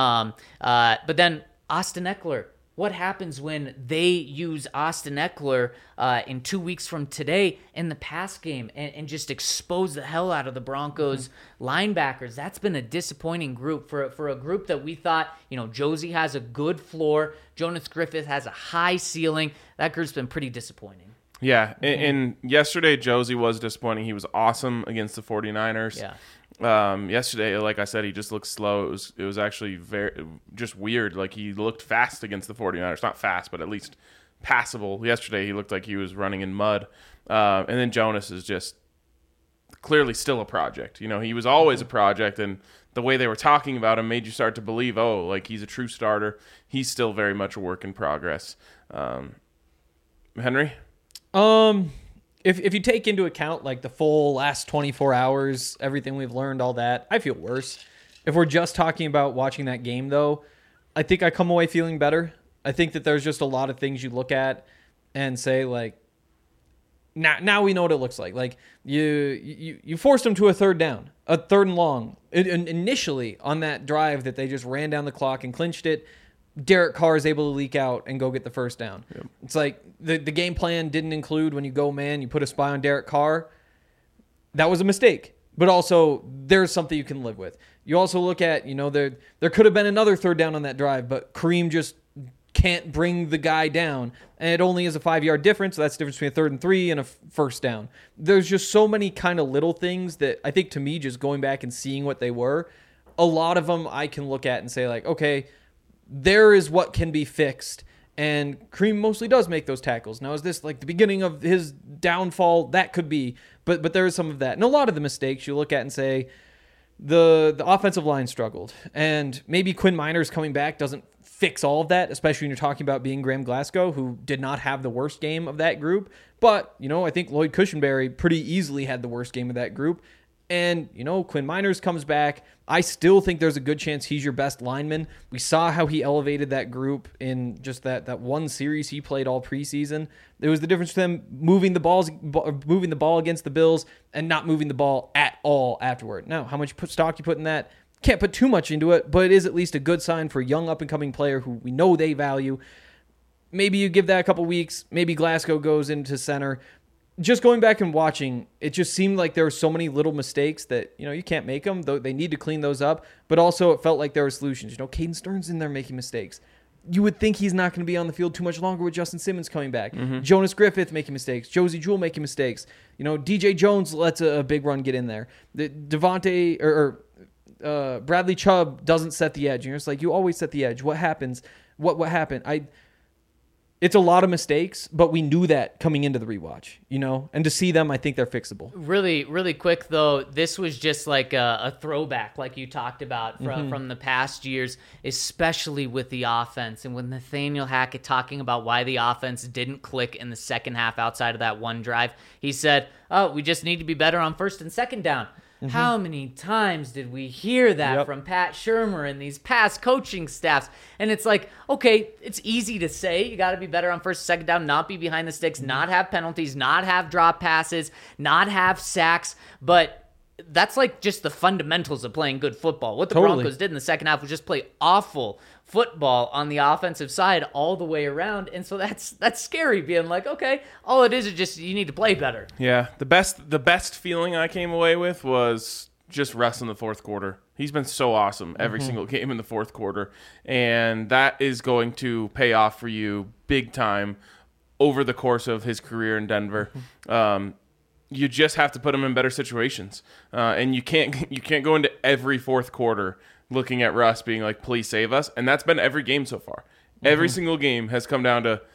But then Austin Eckler. What happens when they use Austin Eckler in 2 weeks from today in the pass game and just expose the hell out of the Broncos linebackers? That's been a disappointing group for a group that we thought, Josie has a good floor. Jonas Griffith has a high ceiling. That group's been pretty disappointing. Yeah, and yesterday Josie was disappointing. He was awesome against the 49ers. Yeah. Yesterday, like I said, he just looked slow. It was actually very just weird. Like he looked fast against the 49ers. Not fast, but at least passable. Yesterday, he looked like he was running in mud. And then Jonas is just clearly still a project. He was always a project, and the way they were talking about him made you start to believe, like he's a true starter. He's still very much a work in progress. Henry? If you take into account like the full last 24 hours, everything we've learned, all that, I feel worse. If we're just talking about watching that game, though, I think I come away feeling better. I think that there's just a lot of things you look at and say, like, now we know what it looks like. Like, you forced them to a third down, a third and long. Initially, on that drive that they just ran down the clock and clinched it, Derek Carr is able to leak out and go get the first down. Yep. It's like the game plan didn't include when you go man, you put a spy on Derek Carr. That was a mistake. But also, there's something you can live with. You also look at, there could have been another third down on that drive, but Kareem just can't bring the guy down. And it only is a 5-yard difference. So that's the difference between a 3rd and 3 and a first down. There's just so many kind of little things that I think, to me, just going back and seeing what they were, a lot of them I can look at and say, like, okay, there is what can be fixed. And Kareem mostly does make those tackles. Now, is this like the beginning of his downfall? That could be. But there is some of that. And a lot of the mistakes you look at and say, the offensive line struggled, and maybe Quinn Miners coming back doesn't fix all of that, especially when you're talking about being Graham Glasgow, who did not have the worst game of that group. But, I think Lloyd Cushenberry pretty easily had the worst game of that group. And, Quinn Miners comes back. I still think there's a good chance he's your best lineman. We saw how he elevated that group in just that one series he played all preseason. There was the difference between them moving the ball against the Bills and not moving the ball at all afterward. Now, how much stock you put in that? Can't put too much into it, but it is at least a good sign for a young up-and-coming player who we know they value. Maybe you give that a couple weeks. Maybe Glasgow goes into center. Just going back and watching, it just seemed like there were so many little mistakes that, you can't make them. Though they need to clean those up. But also it felt like there were solutions. Caden Stearns in there making mistakes. You would think he's not going to be on the field too much longer with Justin Simmons coming back. Mm-hmm. Jonas Griffith making mistakes. Josie Jewell making mistakes. DJ Jones lets a big run get in there. Devontae or Bradley Chubb doesn't set the edge. It's like, you always set the edge. What happens? What happened? It's a lot of mistakes, but we knew that coming into the rewatch, and to see them, I think they're fixable. Really, really quick though, this was just like a throwback, like you talked about from the past years, especially with the offense and with Nathaniel Hackett talking about why the offense didn't click in the second half outside of that one drive. He said, we just need to be better on first and second down. How many times did we hear that from Pat Shurmur and these past coaching staffs? And it's like, okay, it's easy to say you got to be better on first and second down, not be behind the sticks, not have penalties, not have drop passes, not have sacks, but that's like just the fundamentals of playing good football. What the Broncos did in the second half was just play awful football on the offensive side all the way around, and so that's scary, being like, okay, all it is just you need to play better. Yeah, the best feeling I came away with was just Russ in the fourth quarter. He's been so awesome every single game in the fourth quarter, and that is going to pay off for you big time over the course of his career in Denver. You just have to put him in better situations, and you can't go into every fourth quarter looking at Russ being like, please save us. And that's been every game so far. Every single game has come down to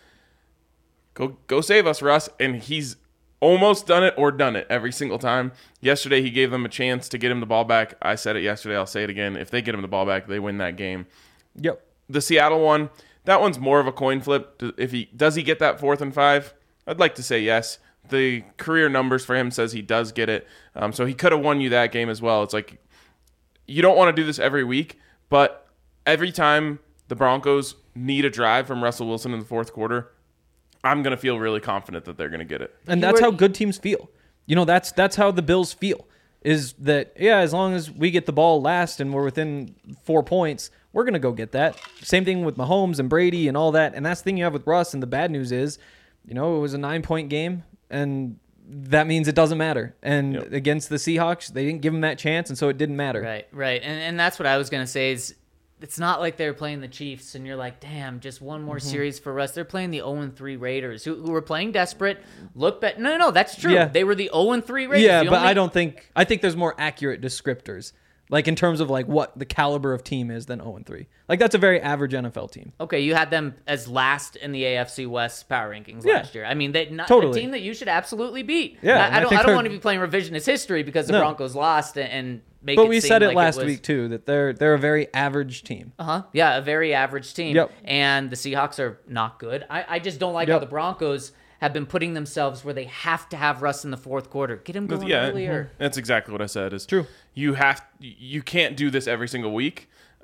go save us, Russ. And he's almost done it or done it every single time. Yesterday, he gave them a chance to get him the ball back. I said it yesterday. I'll say it again. If they get him the ball back, they win that game. Yep. The Seattle one, that one's more of a coin flip. Does he get that 4th and 5? I'd like to say yes. The career numbers for him says he does get it. So he could have won you that game as well. It's like, you don't want to do this every week, but every time the Broncos need a drive from Russell Wilson in the fourth quarter, I'm going to feel really confident that they're going to get it. And that's how good teams feel. That's how the Bills feel, is that, as long as we get the ball last and we're within 4 points, we're going to go get that. Same thing with Mahomes and Brady and all that. And that's the thing you have with Russ. And the bad news is, it was a 9-point game, and that means it doesn't matter. And against the Seahawks, they didn't give him that chance, and so it didn't matter. Right. And that's what I was going to say is, it's not like they're playing the Chiefs and you're like, damn, just one more series for us. They're playing the 0-3 Raiders, who were playing desperate. No, that's true. Yeah. They were the 0-3 Raiders. Yeah, but I think there's more accurate descriptors, like in terms of like what the caliber of team is, than 0-3. Like that's a very average NFL team. Okay, you had them as last in the AFC West power rankings last year. I mean, totally. a team that you should absolutely beat. Yeah, I don't want to be playing revisionist history because the Broncos lost and make it seem like it was... But we said it last week too, that they're a very average team. Yeah, a very average team. Yep. And the Seahawks are not good. I just don't like how the Broncos have been putting themselves where they have to have Russ in the fourth quarter. Get him going earlier. That's exactly what I said. Is true. You can't do this every single week.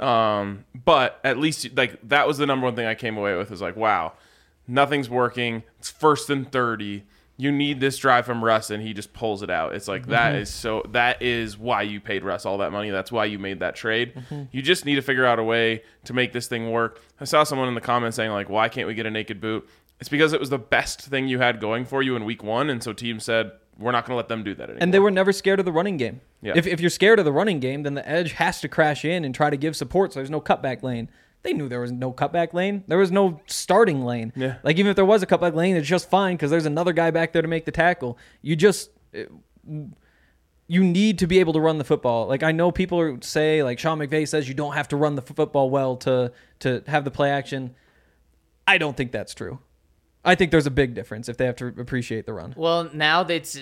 But at least like that was the number one thing I came away with, is like, wow, nothing's working. It's 1st and 30. You need this drive from Russ, and he just pulls it out. It's like that is why you paid Russ all that money. That's why you made that trade. You just need to figure out a way to make this thing work. I saw someone in the comments saying like, why can't we get a naked boot? It's because it was the best thing you had going for you in week 1, and so teams said, we're not going to let them do that anymore. And they were never scared of the running game. Yeah. If you're scared of the running game, then the edge has to crash in and try to give support so there's no cutback lane. They knew there was no cutback lane. There was no starting lane. Yeah. Like, even if there was a cutback lane, it's just fine because there's another guy back there to make the tackle. You need to be able to run the football. Like, I know people say, like Sean McVay says, you don't have to run the football well to have the play action. I don't think that's true. I think there's a big difference if they have to appreciate the run. Well, now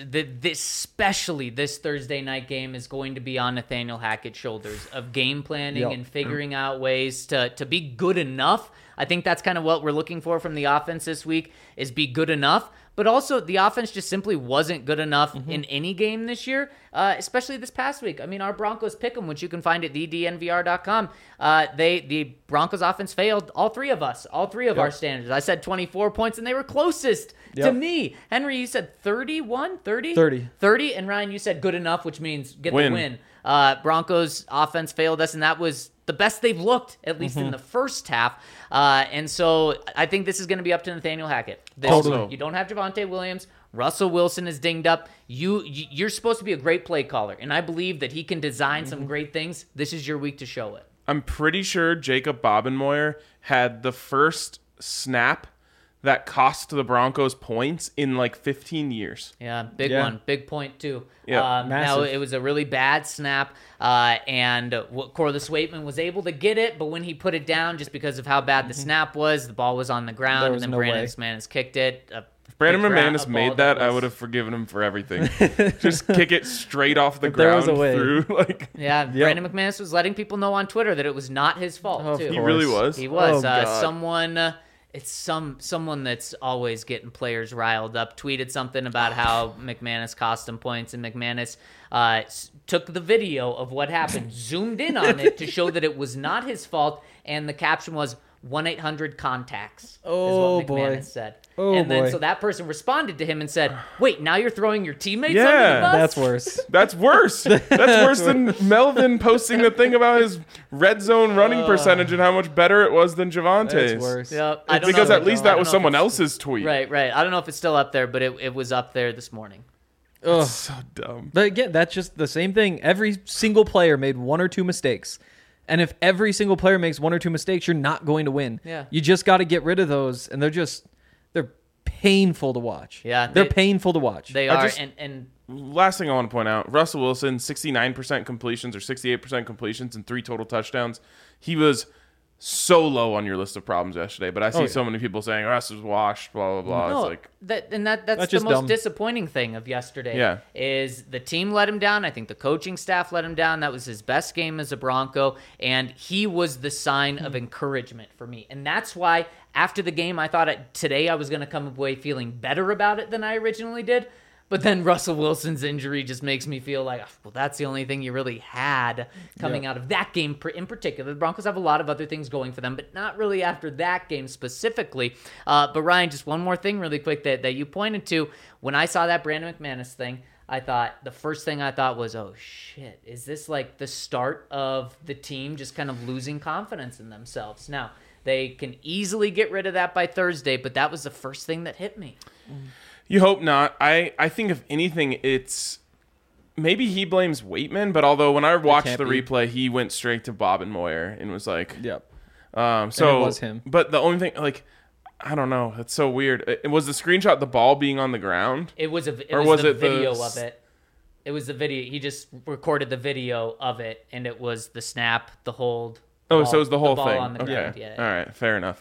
especially this Thursday night game is going to be on Nathaniel Hackett's shoulders of game planning Yep. and figuring out ways to be good enough. I think that's kind of what we're looking for from the offense this week is be good enough. But also, the offense just simply wasn't good enough in any game this year, especially this past week. I mean, our Broncos pick'em, which you can find at thednvr.com, the Broncos offense failed all three of our standards. I said 24 points, and they were closest to me. Henry, you said 31, 30? 30, and Ryan, you said good enough, which means get the win. Broncos offense failed us, and that was the best they've looked, at least in the first half. And so I think this is going to be up to Nathaniel Hackett. Totally. You don't have Javonte Williams. Russell Wilson is dinged up. You're supposed to be a great play caller, and I believe that he can design some great things. This is your week to show it. I'm pretty sure Jacob Bobenmoyer had the first snap that cost the Broncos points in like 15 years. Yeah, big one. Big point, too. Yeah, now, massive. it was a really bad snap, and Corliss Waitman was able to get it, but when he put it down, just because of how bad the snap was, the ball was on the ground, There and was then no Brandon way. McManus kicked it. If Brandon McManus made that, I would have forgiven him for everything. Just kick it straight off the there was ground a way. through. Like, Yeah, Brandon McManus was letting people know on Twitter that it was not his fault, Of too. he really was. He was. Oh, God. It's someone that's always getting players riled up. Tweeted something about how McManus cost him points, and McManus took the video of what happened, zoomed in on it to show that it was not his fault, and the caption was 1-800-CONTACTS. Oh, is what McManus boy. said. Oh, and then boy. so that person responded to him and said, "Wait, now you're throwing your teammates Yeah, under the bus?" That's worse. that's worse. That's worse than Melvin posting the thing about his red zone running percentage and how much better it was than Javante's. That's worse. Yeah, I don't Because know at if- least I that don't was know if someone it's- else's tweet. Right. I don't know if it's still up there, but it was up there this morning. Ugh. So dumb. But again, that's just the same thing. Every single player made one or two mistakes. And if every single player makes one or two mistakes, you're not going to win. Yeah. You just got to get rid of those, and they're painful to watch. Yeah, They're they- painful to watch. They I are, just- and Last thing I want to point out, Russell Wilson, 69% completions or 68% completions and 3 total touchdowns. He was so low on your list of problems yesterday, but I see yeah. so many people saying Russ was washed, blah, blah, blah. no, It's like, that's the just most dumb. disappointing thing of yesterday. Yeah. Is the team let him down. I think the coaching staff let him down. That was his best game as a Bronco, and he was the sign of encouragement for me. And that's why after the game, I thought today I was going to come away feeling better about it than I originally did. But then Russell Wilson's injury just makes me feel like, well, that's the only thing you really had coming out of that game in particular. The Broncos have a lot of other things going for them, but not really after that game specifically. But Ryan, just one more thing really quick that you pointed to. When I saw that Brandon McManus thing, the first thing I thought was, oh, shit, is this like the start of the team just kind of losing confidence in themselves? Now, they can easily get rid of that by Thursday, but that was the first thing that hit me. you hope not. I think if anything, it's maybe he blames Waitman, but although when I watched can't the be. replay, he went straight to Bobenmoyer and was like, Yep. so it was him. But the only thing, like, I don't know, it's so weird. It was the screenshot the ball being on the ground. It was Or was was the it the video s- of it. It was the video. He just recorded the video of it, and it was the snap, the hold. Oh, ball- so it was the whole ball thing. on the Okay. ground. Yeah. All right. Fair enough.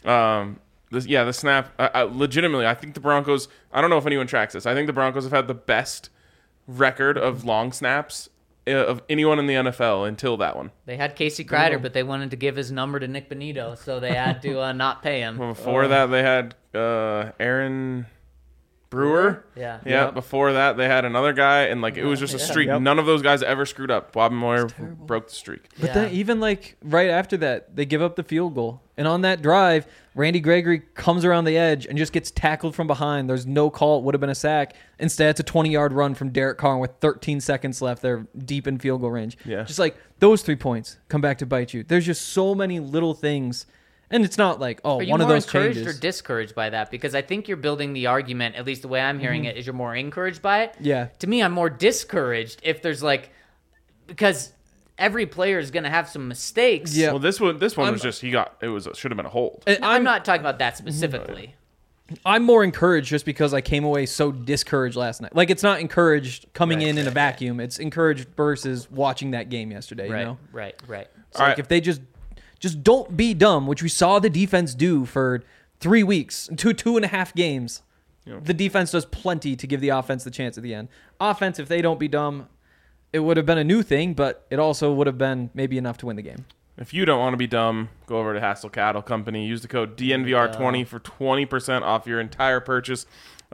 The snap. Legitimately, I think the Broncos. I don't know if anyone tracks this. I think the Broncos have had the best record of long snaps of anyone in the NFL until that one. They had Casey Kreider, but they wanted to give his number to Nick Benito, so they had to not pay him. Before that, they had Aaron Brewer. Yeah. Yeah. Yep. Before that, they had another guy, and like it was just a streak. Yep. None of those guys ever screwed up. Bobenmoyer broke the streak. But Yeah. then even like right after that, they give up the field goal. And on that drive, Randy Gregory comes around the edge and just gets tackled from behind. There's no call. It would have been a sack. Instead, it's a 20-yard run from Derek Carr with 13 seconds left. They're deep in field goal range. Yeah. Just like those 3 points come back to bite you. There's just so many little things. And it's not like, oh, Are you one of more those encouraged changes. or discouraged by that? Because I think you're building the argument, at least the way I'm hearing it, is you're more encouraged by it. Yeah. To me, I'm more discouraged if there's because every player is going to have some mistakes. Yeah. Well, this one was just should have been a hold. And I'm not talking about that specifically. I'm more encouraged just because I came away so discouraged last night. Like, it's not encouraged coming in a vacuum. It's encouraged versus watching that game yesterday, Right, you know? right. So All like right. if they just don't be dumb, which we saw the defense do for 3 weeks, 2.5 games. The defense does plenty to give the offense the chance at the end. Offense, if they don't be dumb, it would have been a new thing, but it also would have been maybe enough to win the game. If you don't want to be dumb, go over to Hassel Cattle Company. Use the code DNVR20 for 20% off your entire purchase.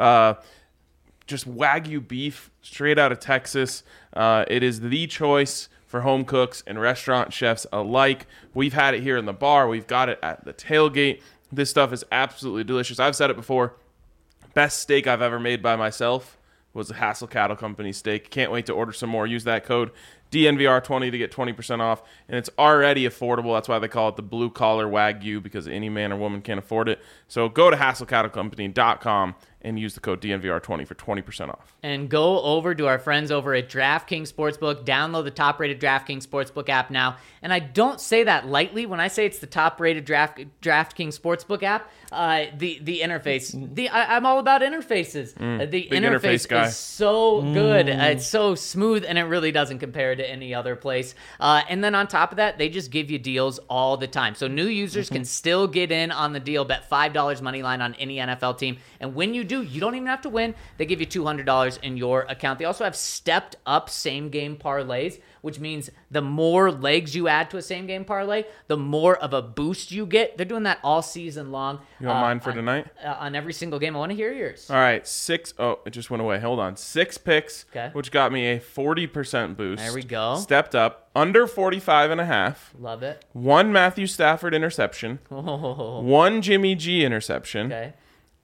Just Wagyu beef straight out of Texas. It is the choice for home cooks and restaurant chefs alike. We've had it here in the bar. We've got it at the tailgate. This stuff is absolutely delicious. I've said it before. Best steak I've ever made by myself was a Hassel Cattle Company steak. Can't wait to order some more. Use that code DNVR20 to get 20% off. And it's already affordable. That's why they call it the blue collar Wagyu, because any man or woman can't afford it. So go to HassleCattleCompany.com and use the code DNVR20 for 20% off. And go over to our friends over at DraftKings Sportsbook. Download the top-rated DraftKings Sportsbook app now. And I don't say that lightly when I say it's the top-rated DraftKings Sportsbook app. The interface. I'm all about interfaces. The interface guy. is so good. It's so smooth, and it really doesn't compare to any other place. And then on top of that, they just give you deals all the time. So new users can still get in on the deal. Bet $5 money line on any NFL team. And when you do, you don't even have to win. They give you $200 in your account. They also have stepped up same-game parlays, which means the more legs you add to a same-game parlay, the more of a boost you get. They're doing that all season long. You want mine for tonight? On every single game. I want to hear yours. All right, it just went away. Hold on. 6 picks, Okay. which got me a 40% boost. There we go. Stepped up, under 45.5. Love it. 1 Matthew Stafford interception. Oh, 1 Jimmy G interception. okay.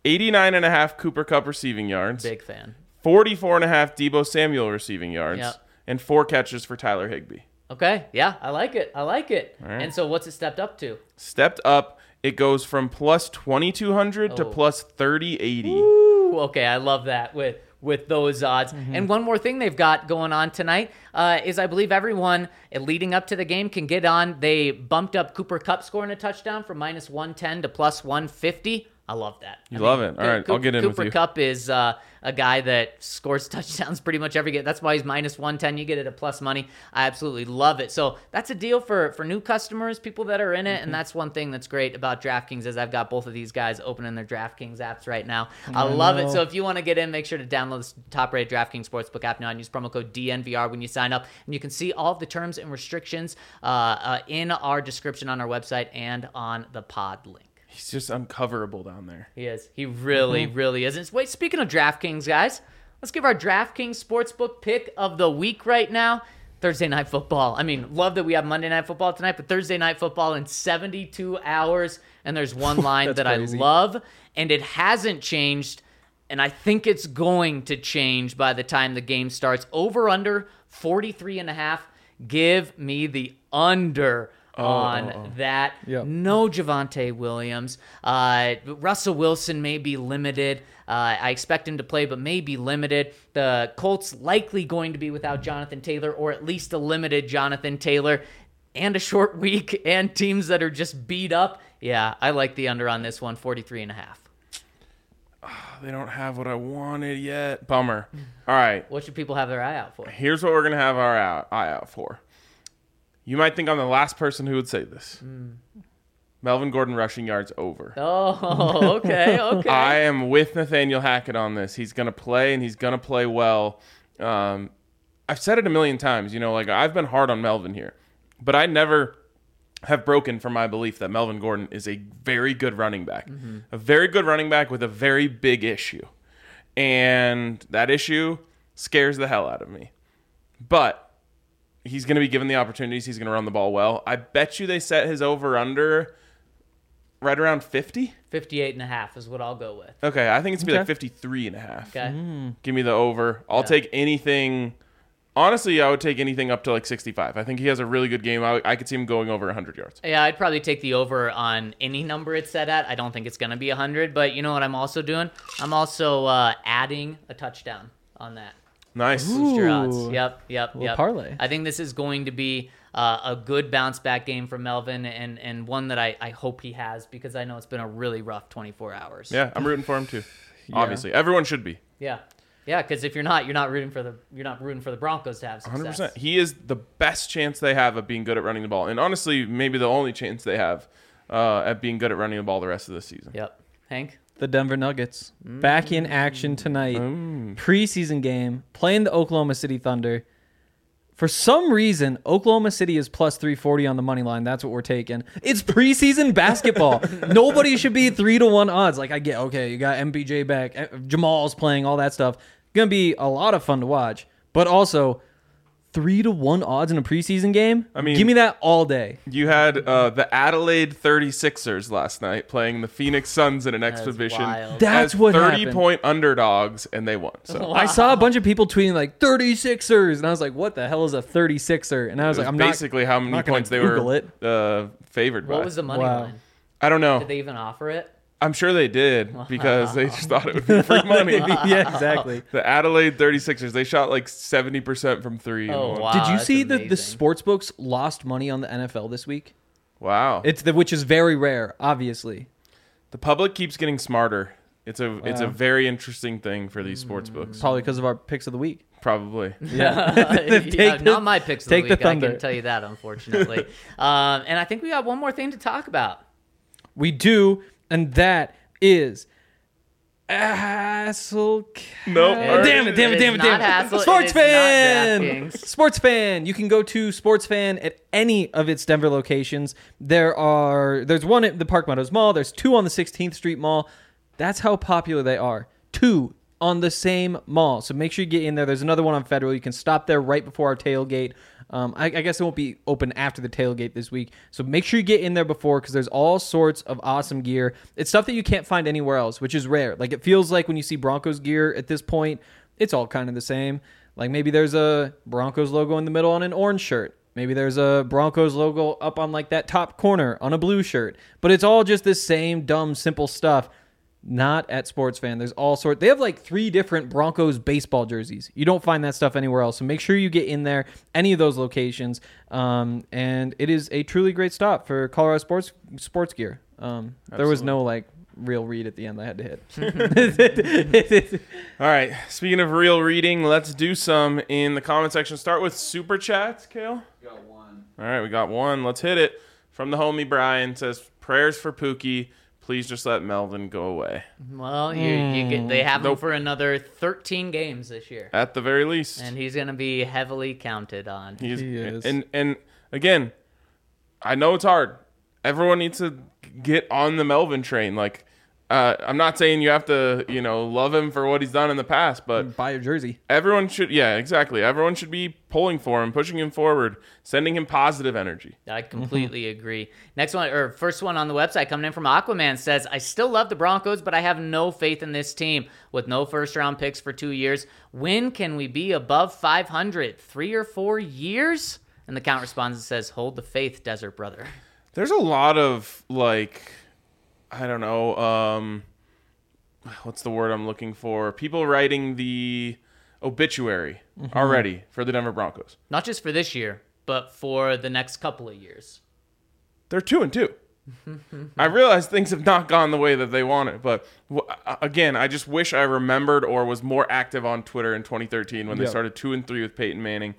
89.5 Cooper Kupp receiving yards. Big fan. 44.5 Deebo Samuel receiving yards. Yep. And 4 catches for Tyler Higbee. Okay. Yeah, I like it. right. And so what's it stepped up to? Stepped up, it goes from plus 2,200 to Oh. plus 3,080. Ooh, okay, I love that with those odds. And one more thing they've got going on tonight is I believe everyone leading up to the game can get on. They bumped up Cooper Kupp scoring a touchdown from minus 110 to plus 150. I love that. You love it. All right, I'll get in with you. Cooper Kupp is a guy that scores touchdowns pretty much every game. That's why he's minus 110. You get it at plus money. I absolutely love it. So that's a deal for new customers, people that are in it. And that's one thing that's great about DraftKings is I've got both of these guys opening their DraftKings apps right now. I love it. So if you want to get in, make sure to download this top-rated DraftKings Sportsbook app now and use promo code DNVR when you sign up. And you can see all of the terms and restrictions in our description on our website and on the pod link. He's just uncoverable down there. He is. He really, really is. And wait, speaking of DraftKings, guys, let's give our DraftKings Sportsbook pick of the week right now. Thursday Night Football. I mean, love that we have Monday Night Football tonight, but Thursday Night Football in 72 hours. And there's one line that crazy. I love, and it hasn't changed, and I think it's going to change by the time the game starts. Over under 43.5. Give me the under on that. Yep. No Javonte Williams. Russell Wilson may be limited. I expect him to play, but may be limited. The Colts likely going to be without Jonathan Taylor, or at least a limited Jonathan Taylor, and a short week, and teams that are just beat up. Yeah, I like the under on this one, 43.5. They don't have what I wanted yet. Bummer. All right. What should people have their eye out for? Here's what we're going to have our eye out for. You might think I'm the last person who would say this. Melvin Gordon rushing yards over. Oh, okay, okay. I am with Nathaniel Hackett on this. He's going to play, and he's going to play well. I've said it a million times. You know, like I've been hard on Melvin here. But I never have broken from my belief that Melvin Gordon is a very good running back. A very good running back with a very big issue. And that issue scares the hell out of me. But he's going to be given the opportunities. He's going to run the ball well. I bet you they set his over-under right around 50? 58.5 is what I'll go with. Okay, I think it's going to be Okay. like 53.5. Okay. Give me the over. I'll take anything. Honestly, I would take anything up to like 65. I think he has a really good game. I could see him going over 100 yards. Yeah, I'd probably take the over on any number it's set at. I don't think it's going to be 100, but you know what I'm also doing? I'm also adding a touchdown on that. Nice. Boost your odds. Ooh. Yep. parlay. I think this is going to be a good bounce back game for Melvin, and one that I hope he has, because I know it's been a really rough 24 hours. Yeah, I'm rooting for him too. Obviously, everyone should be. Yeah. Because if you're not rooting for the Broncos to have success. 100%. He is the best chance they have of being good at running the ball, and honestly, maybe the only chance they have at being good at running the ball the rest of the season. Yep. Hank? The Denver Nuggets back in action tonight. Preseason game, playing the Oklahoma City Thunder. For some reason, Oklahoma City is plus 340 on the money line. That's what we're taking. It's preseason basketball. Nobody should be 3-1 odds. Like, I get, okay, you got MPJ back, Jamal's playing, all that stuff. Going to be a lot of fun to watch. But also, 3-1 odds in a preseason game? I mean, give me that all day. You had the Adelaide 36ers last night playing the Phoenix Suns in an exhibition. wild. That's as what 30-point underdogs, and they won. So I saw a bunch of people tweeting like 36ers, and I was like, what the hell is a 36er? And I was it like, was I'm basically how many not gonna points they Google were favored by. What was the money Wow. line? I don't know. Did they even offer it? I'm sure they did because they just thought it would be free money. yeah, exactly. The Adelaide 36ers, they shot like 70% from three. Oh, and won. wow. Did you that's see that the amazing. sports books lost money on the NFL this week? Wow. Which is very rare, obviously. The public keeps getting smarter. It's a very interesting thing for these sports books. Probably because of our picks of the week. Probably. Yeah, not my picks of the take the week. I Thunder. can tell you that, unfortunately. And I think we got one more thing to talk about. We do, and that is Hassel. Nope. Damn it. It is not Hassel, Sports it is fan. not DraftKings. Sports fan. You can go to Sports Fan at any of its Denver locations. There's one at the Park Meadows Mall. There's two on the 16th Street Mall. That's how popular they are. Two on the same mall. So make sure you get in there. There's another one on Federal. You can stop there right before our tailgate. I guess it won't be open after the tailgate this week. So make sure you get in there before because there's all sorts of awesome gear. It's stuff that you can't find anywhere else, which is rare. Like it feels like when you see Broncos gear at this point, it's all kind of the same. Like maybe there's a Broncos logo in the middle on an orange shirt. Maybe there's a Broncos logo up on like that top corner on a blue shirt. But it's all just this same dumb, simple stuff. Not at Sports Fan. There's all sorts. They have like 3 different Broncos baseball jerseys. You don't find that stuff anywhere else. So make sure you get in there, any of those locations. And it is a truly great stop for Colorado sports gear. There was no like real read at the end I had to hit. All right. Speaking of real reading, let's do some in the comment section. Start with Super Chats, Kale. Got one. All right, we got one. Let's hit it. From the homie Brian, says, prayers for Pookie. Please just let Melvin go away. Well, they have him Nope. for another 13 games this year. At the very least. And he's going to be heavily counted on. He is. And again, I know it's hard. Everyone needs to get on the Melvin train. Like, I'm not saying you have to, love him for what he's done in the past, but Buy your jersey. everyone should, yeah, exactly. Everyone should be pulling for him, pushing him forward, sending him positive energy. I completely agree. Next one, or first one on the website coming in from Aquaman says, I still love the Broncos, but I have no faith in this team. With no first-round picks for 2 years, when can we be above 500? 3 or 4 years? And the count responds and says, hold the faith, Desert Brother. There's a lot of, I don't know, what's the word I'm looking for? People writing the obituary already for the Denver Broncos. Not just for this year, but for the next couple of years. They're 2-2. I realize things have not gone the way that they wanted, but again, I just wish I remembered or was more active on Twitter in 2013 when they started 2-3 with Peyton Manning.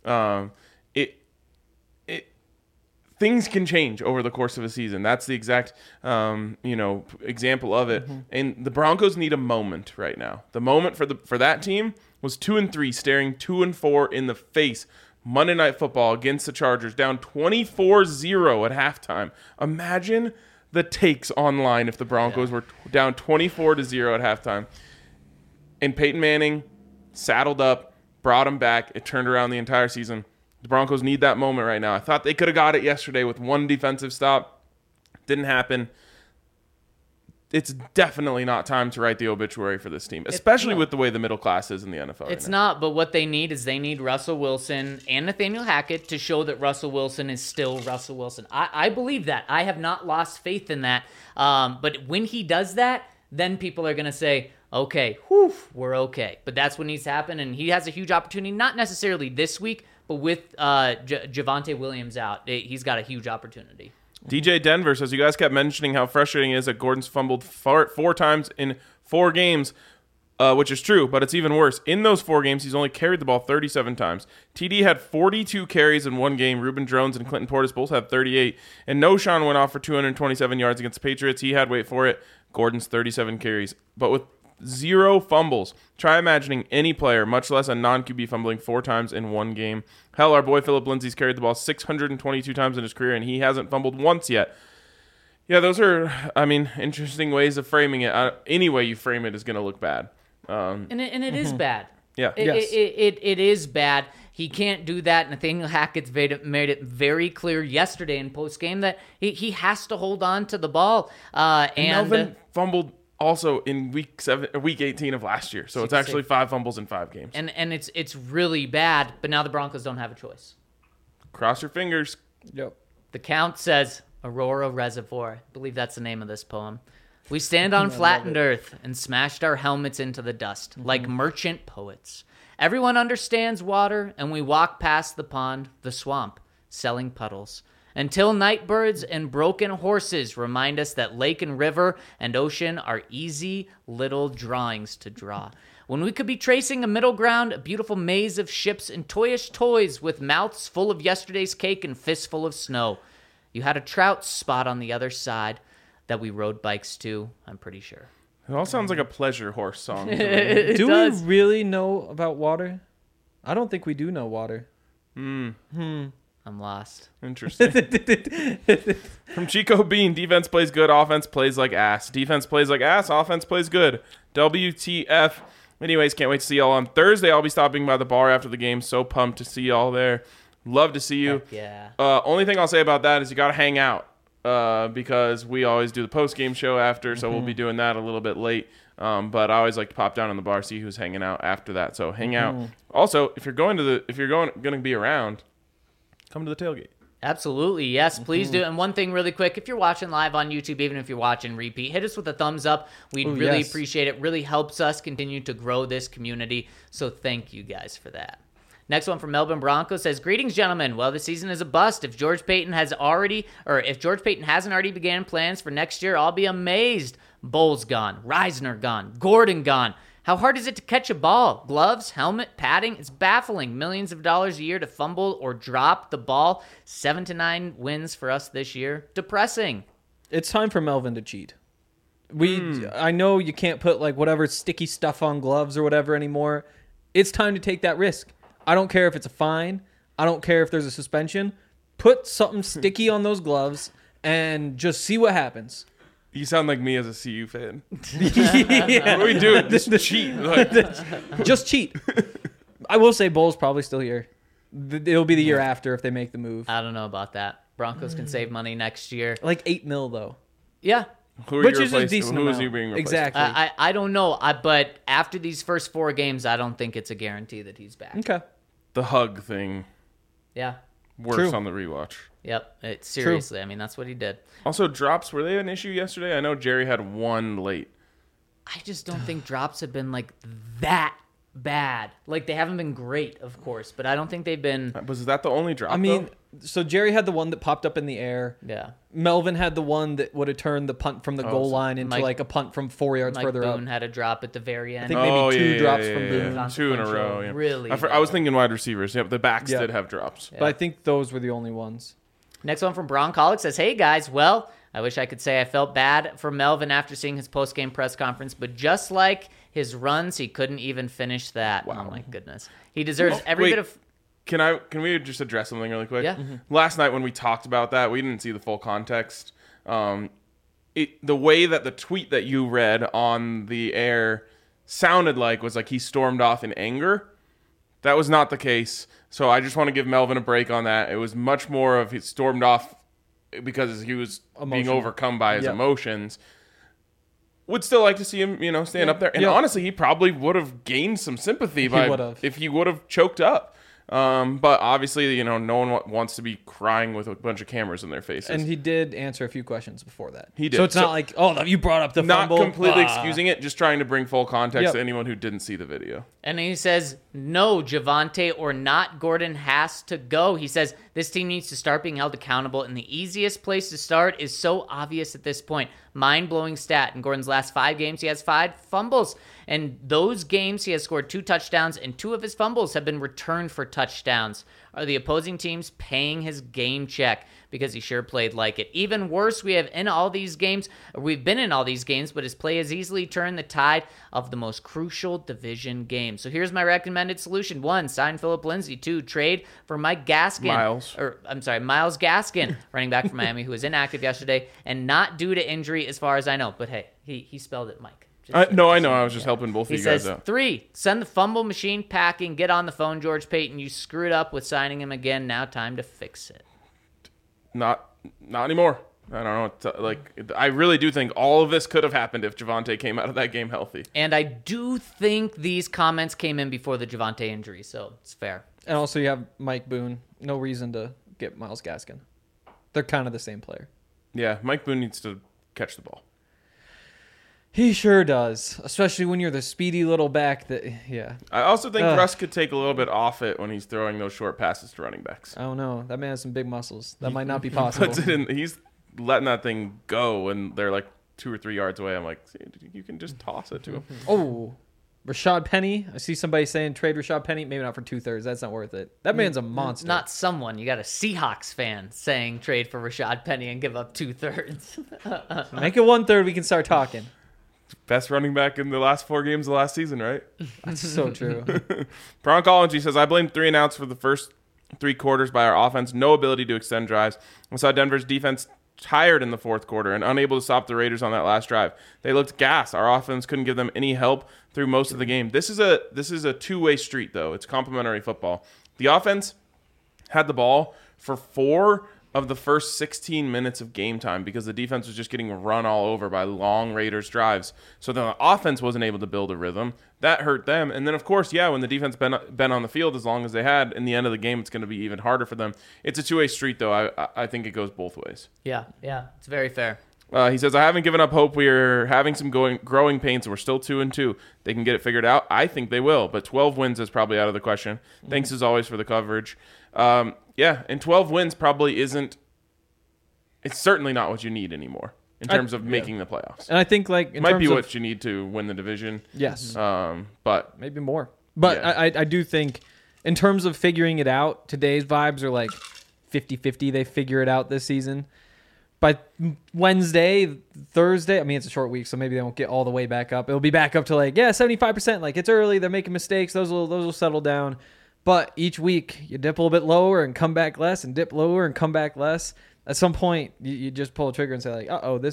Things can change over the course of a season. That's the exact, example of it. And the Broncos need a moment right now. The moment for that team was 2-3, staring 2-4 in the face. Monday Night Football against the Chargers, down 24-0 at halftime. Imagine the takes online if the Broncos were down 24-0 at halftime. And Peyton Manning saddled up, brought him back. It turned around the entire season. The Broncos need that moment right now. I thought they could have got it yesterday with one defensive stop. Didn't happen. It's definitely not time to write the obituary for this team, especially with the way the middle class is in the NFL. It's not, but what they need is they need Russell Wilson and Nathaniel Hackett to show that Russell Wilson is still Russell Wilson. I believe that. I have not lost faith in that. But when he does that, then people are going to say, okay, we're okay. But that's what needs to happen, and he has a huge opportunity, not necessarily this week, but with Javonte Williams out, he's got a huge opportunity. DJ Denver says, you guys kept mentioning how frustrating it is that Gordon's fumbled four times in 4 games, which is true, but it's even worse. In those 4 games, he's only carried the ball 37 times. TD had 42 carries in 1 game. Reuben Drones and Clinton Portis both had 38. And Noshawn went off for 227 yards against the Patriots. He had, wait for it, Gordon's 37 carries, but with 0 fumbles. Try imagining any player, much less a non-QB, fumbling 4 times in one game. Hell, our boy Philip Lindsay's carried the ball 622 times in his career, and he hasn't fumbled once yet. Yeah, those are, interesting ways of framing it. Any way you frame it is going to look bad. And it is bad. Yeah. It is bad. He can't do that. Nathaniel Hackett's made it very clear yesterday in postgame that he has to hold on to the ball. And Melvin fumbled also in week 18 of last year. So it's actually 5 fumbles in 5 games. And it's really bad, but now the Broncos don't have a choice. Cross your fingers. Yep. The Count says, Aurora Reservoir. I believe that's the name of this poem. We stand on flattened earth and smashed our helmets into the dust like merchant poets. Everyone understands water, and we walk past the pond, the swamp, selling puddles. Until nightbirds and broken horses remind us that lake and river and ocean are easy little drawings to draw. When we could be tracing a middle ground, a beautiful maze of ships and toyish toys with mouths full of yesterday's cake and fistful of snow. You had a trout spot on the other side that we rode bikes to, I'm pretty sure. It all sounds like a pleasure horse song. Do we really know about water? I don't think we do know water. I'm lost. Interesting. From Chico Bean, defense plays good, offense plays like ass. Defense plays like ass, offense plays good. WTF. Anyways, can't wait to see y'all on Thursday. I'll be stopping by the bar after the game. So pumped to see y'all there. Love to see you. Heck yeah. Only thing I'll say about that is you got to hang out because we always do the post-game show after, so we'll be doing that a little bit late. But I always like to pop down in the bar, see who's hanging out after that. So hang out. Also, if you're going to be around, come to the tailgate. Absolutely. Yes, please do. And one thing really quick, if you're watching live on YouTube, even if you're watching repeat, hit us with a thumbs up. We'd really appreciate it. Really helps us continue to grow this community. So thank you guys for that. Next one from Melbourne Broncos says, greetings, gentlemen. Well, the season is a bust. If George Payton hasn't already began plans for next year, I'll be amazed. Bowles gone. Reisner gone. Gordon gone. How hard is it to catch a ball? Gloves, helmet, padding? It's baffling. Millions of dollars a year to fumble or drop the ball. 7 to 9 wins for us this year. Depressing. It's time for Melvin to cheat. I know you can't put like whatever sticky stuff on gloves or whatever anymore. It's time to take that risk. I don't care if it's a fine. I don't care if there's a suspension. Put something sticky on those gloves and just see what happens. You sound like me as a CU fan. Yeah. What are we doing? Just cheat. Just cheat. I will say Bowles probably still here. It'll be the year after if they make the move. I don't know about that. Broncos can save money next year. Like $8 million though. Yeah. Which is a decent Who is amount. he being replaced? Exactly. I don't know. But after these first 4 games, I don't think it's a guarantee that he's back. Okay. The hug thing Yeah. works True. on the rewatch. Yep. Seriously. I mean, that's what he did. Also, drops, were they an issue yesterday? I know Jerry had 1 late. I just don't think drops have been like that bad. Like, they haven't been great, of course, but I don't think they've been. Was that the only drop, I mean, though? so Jerry had the one that popped up in the air. Yeah. Melvin had the one that would have turned the punt from the goal line into like a punt from 4 yards Mike further Boone up. had a drop at the very end. I think maybe two drops from Boone. Yeah. 2 in a row. Yeah. Really I was thinking wide receivers. Yep, the backs Yeah. did have drops. But I think those were the only ones. Next one from Broncolic says, hey, guys, well, I wish I could say I felt bad for Melvin after seeing his post-game press conference, but just like his runs, he couldn't even finish that. Wow. Oh, my goodness. He deserves every bit of... Can we just address something really quick? Yeah. Last night when we talked about that, we didn't see the full context. The way that the tweet that you read on the air sounded like was like he stormed off in anger. That was not the case. So I just want to give Melvin a break on that. It was much more of he stormed off because he was being overcome by his emotions. Would still like to see him, stand up there. And honestly, he probably would have gained some sympathy if he would have choked up. But obviously, no one wants to be crying with a bunch of cameras in their faces. And he did answer a few questions before that. He did. So it's not like, you brought up the not fumble. completely excusing it, just trying to bring full context to anyone who didn't see the video. And he says, no, Javonte or not, Gordon has to go. He says, this team needs to start being held accountable, and the easiest place to start is so obvious at this point. Mind-blowing stat. In Gordon's last 5 games, he has 5 fumbles. And those games, he has scored 2 touchdowns, and 2 of his fumbles have been returned for touchdowns. are the opposing teams paying his game check? Because he sure played like it. Even worse, we've been in all these games, but his play has easily turned the tide of the most crucial division game. So here's my recommended solution. 1, sign Philip Lindsay. 2, trade for Miles Gaskin, running back from Miami, who was inactive yesterday and not due to injury as far as I know. But hey, he spelled it Mike. I know. I was just helping both of He you guys says, out. 3, send the fumble machine packing. Get on the phone, George Payton. You screwed up with signing him again. Now time to fix it. Not anymore. I don't know. I really do think all of this could have happened if Javonte came out of that game healthy. And I do think these comments came in before the Javonte injury, so it's fair. And also you have Mike Boone. No reason to get Myles Gaskin. They're kind of the same player. Yeah, Mike Boone needs to catch the ball. He sure does, especially when you're the speedy little back that, yeah. I also think Russ could take a little bit off it when he's throwing those short passes to running backs. I don't know. That man has some big muscles. That might not be possible. He's letting that thing go, and they're like 2 or 3 yards away. I'm like, you can just toss it to him. Oh, Rashad Penny. I see somebody saying trade Rashad Penny. Maybe not for 2/3. That's not worth it. That man's a monster. Not someone. You got a Seahawks fan saying trade for Rashad Penny and give up 2/3. Make it 1/3. We can start talking. Best running back in the last 4 games of last season, right? That's so true. Broncology says, I blame 3 and outs for the first 3 quarters by our offense. No ability to extend drives. I saw Denver's defense tired in the 4th quarter and unable to stop the Raiders on that last drive. They looked gassed. Our offense couldn't give them any help through most of the game. This is a two-way street, though. It's complementary football. The offense had the ball for 4 of the first 16 minutes of game time because the defense was just getting run all over by long Raiders drives. So the offense wasn't able to build a rhythm. That hurt them. And then, of course, when the defense been on the field as long as they had, in the end of the game, it's going to be even harder for them. It's a two-way street, though. I think it goes both ways. Yeah, it's very fair. He says, I haven't given up hope. We're having some growing pains, and we're still 2-2. They can get it figured out. I think they will, but 12 wins is probably out of the question. Thanks, as always, for the coverage. And 12 wins probably isn't – it's certainly not what you need anymore in terms of making the playoffs. And I think, it might be what you need to win the division. Yes. But maybe more. But yeah. I do think in terms of figuring it out, today's vibes are like 50-50. They figure it out this season. By Wednesday, Thursday, I mean, it's a short week, so maybe they won't get all the way back up. It'll be back up to 75%. Like, it's early. They're making mistakes. Those will settle down. But each week, you dip a little bit lower and come back less and dip lower and come back less. At some point, you just pull a trigger and say,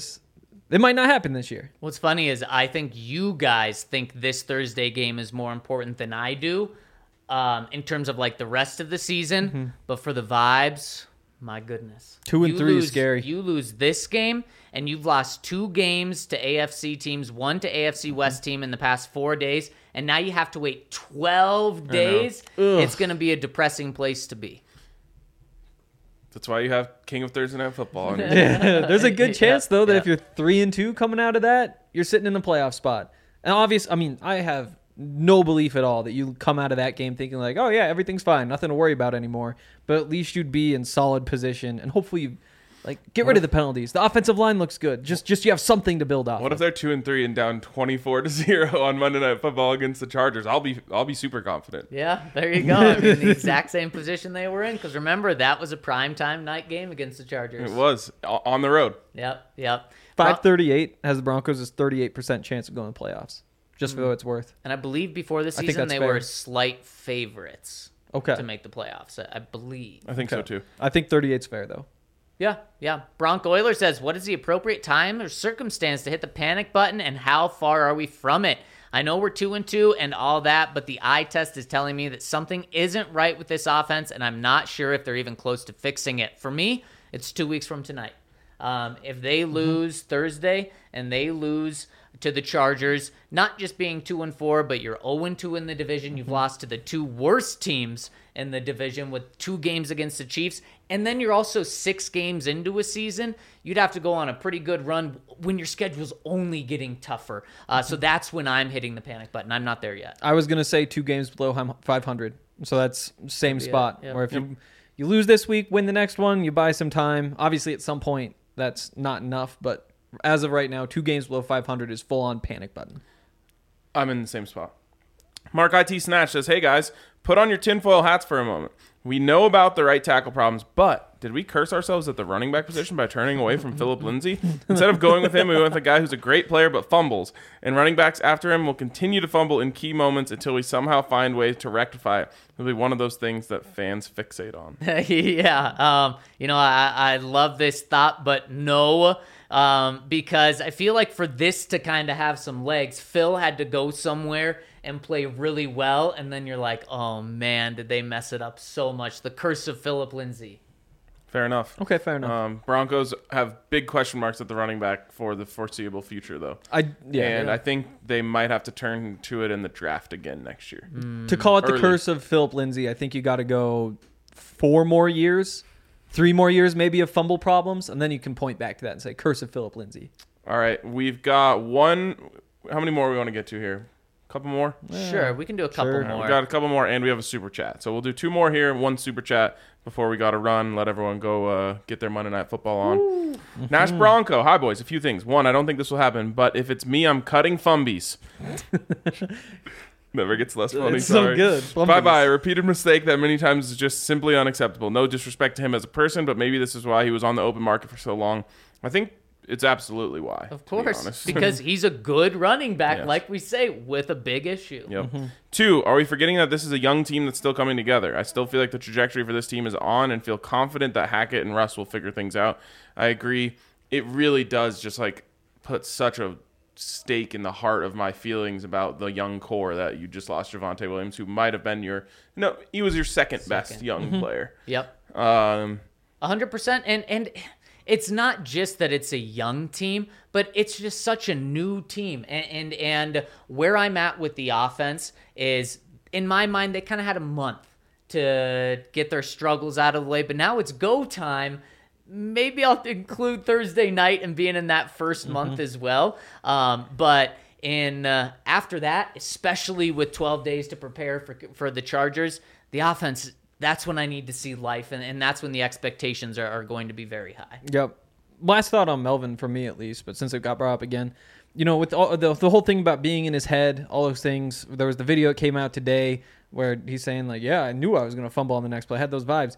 it might not happen this year. What's funny is I think you guys think this Thursday game is more important than I do in terms of, the rest of the season. Mm-hmm. But for the vibes... My goodness. 2 and 3 is scary. You lose this game, and you've lost 2 games to AFC teams, 1 to AFC West team in the past 4 days, and now you have to wait 12 days. It's going to be a depressing place to be. That's why you have King of Thursday Night Football. There's a good chance, though, that if you're 3-2 coming out of that, you're sitting in the playoff spot. And I have no belief at all that you come out of that game thinking everything's fine, nothing to worry about anymore. But at least you'd be in solid position, and hopefully you get rid of the penalties. The offensive line looks good. Just you have something to build off. What if they're 2-3 and down 24-0 on Monday Night Football against the Chargers? I'll be super confident. Yeah, there you go. I mean, the exact same position they were in, because remember that was a primetime night game against the Chargers. It was on the road. Yep. 538 has the Broncos' 38% chance of going to the playoffs. Just for what it's worth. And I believe before the season they were slight favorites to make the playoffs, I believe. I think so, too. I think 38's fair, though. Yeah. Bronco Euler says, what is the appropriate time or circumstance to hit the panic button, and how far are we from it? I know we're 2-2 and all that, but the eye test is telling me that something isn't right with this offense, and I'm not sure if they're even close to fixing it. For me, it's 2 weeks from tonight. If they lose Thursday and they lose to the Chargers, not just being 2-4, but you're 0-2 in the division. You've lost to the 2 worst teams in the division with 2 games against the Chiefs. And then you're also 6 games into a season. You'd have to go on a pretty good run when your schedule's only getting tougher. So that's when I'm hitting the panic button. I'm not there yet. I was going to say 2 games below 500. So that's same spot. Where if you lose this week, win the next one, you buy some time. Obviously, at some point, that's not enough, but as of right now, 2 games below 500 is full-on panic button. I'm in the same spot. Mark IT Snatch says, hey guys, put on your tinfoil hats for a moment. We know about the right tackle problems, but did we curse ourselves at the running back position by turning away from Philip Lindsay? Instead of going with him, we went with a guy who's a great player but fumbles. And running backs after him will continue to fumble in key moments until we somehow find ways to rectify it. It'll be one of those things that fans fixate on. Yeah. I love this thought, but no. Because I feel like for this to kind of have some legs, Phil had to go somewhere and play really well, and then you're like, oh man, did they mess it up so much? The curse of Philip Lindsay. Fair enough. Okay, fair enough. Broncos have big question marks at the running back for the foreseeable future, though. I think they might have to turn to it in the draft again next year. To call it Early. the curse of Philip Lindsay, I think you got to go 4 more years, 3 more years maybe of fumble problems, and then you can point back to that and say curse of Philip Lindsay. All right, we've got one. How many more we want to get to here? Couple more? Sure, we can do a couple Sure. more. We got a couple more, and we have a super chat. So we'll do 2 more here, 1 super chat before we got to run. Let everyone go get their Monday Night Football on. Nash Bronco. Hi, boys. A few things. 1, I don't think this will happen, but if it's me, I'm cutting Fumbies. Never gets less funny. It's so sorry. good. Bye-bye. A repeated mistake that many times is just simply unacceptable. No disrespect to him as a person, but maybe this is why he was on the open market for so long. I think it's absolutely why. Of to be course, honest. because he's a good running back, Yes. like we say, with a big issue. Yep. 2, are we forgetting that this is a young team that's still coming together? I still feel like the trajectory for this team is on and feel confident that Hackett and Russ will figure things out. I agree. It really does just like put such a stake in the heart of my feelings about the young core that you just lost Javonte Williams, who might have been he was your second best young player. Yep. 100%. And it's not just that it's a young team, but it's just such a new team. And where I'm at with the offense is, in my mind, they kind of had a month to get their struggles out of the way, but now it's go time. Maybe I'll include Thursday night and being in that first month as well. But after that, especially with 12 days to prepare for the Chargers, the offense, that's when I need to see life, and that's when the expectations are going to be very high. Yep. Last thought on Melvin for me at least, but since it got brought up again, with all the whole thing about being in his head, all those things. There was the video that came out today where he's saying like, "Yeah, I knew I was going to fumble on the next play." I had those vibes.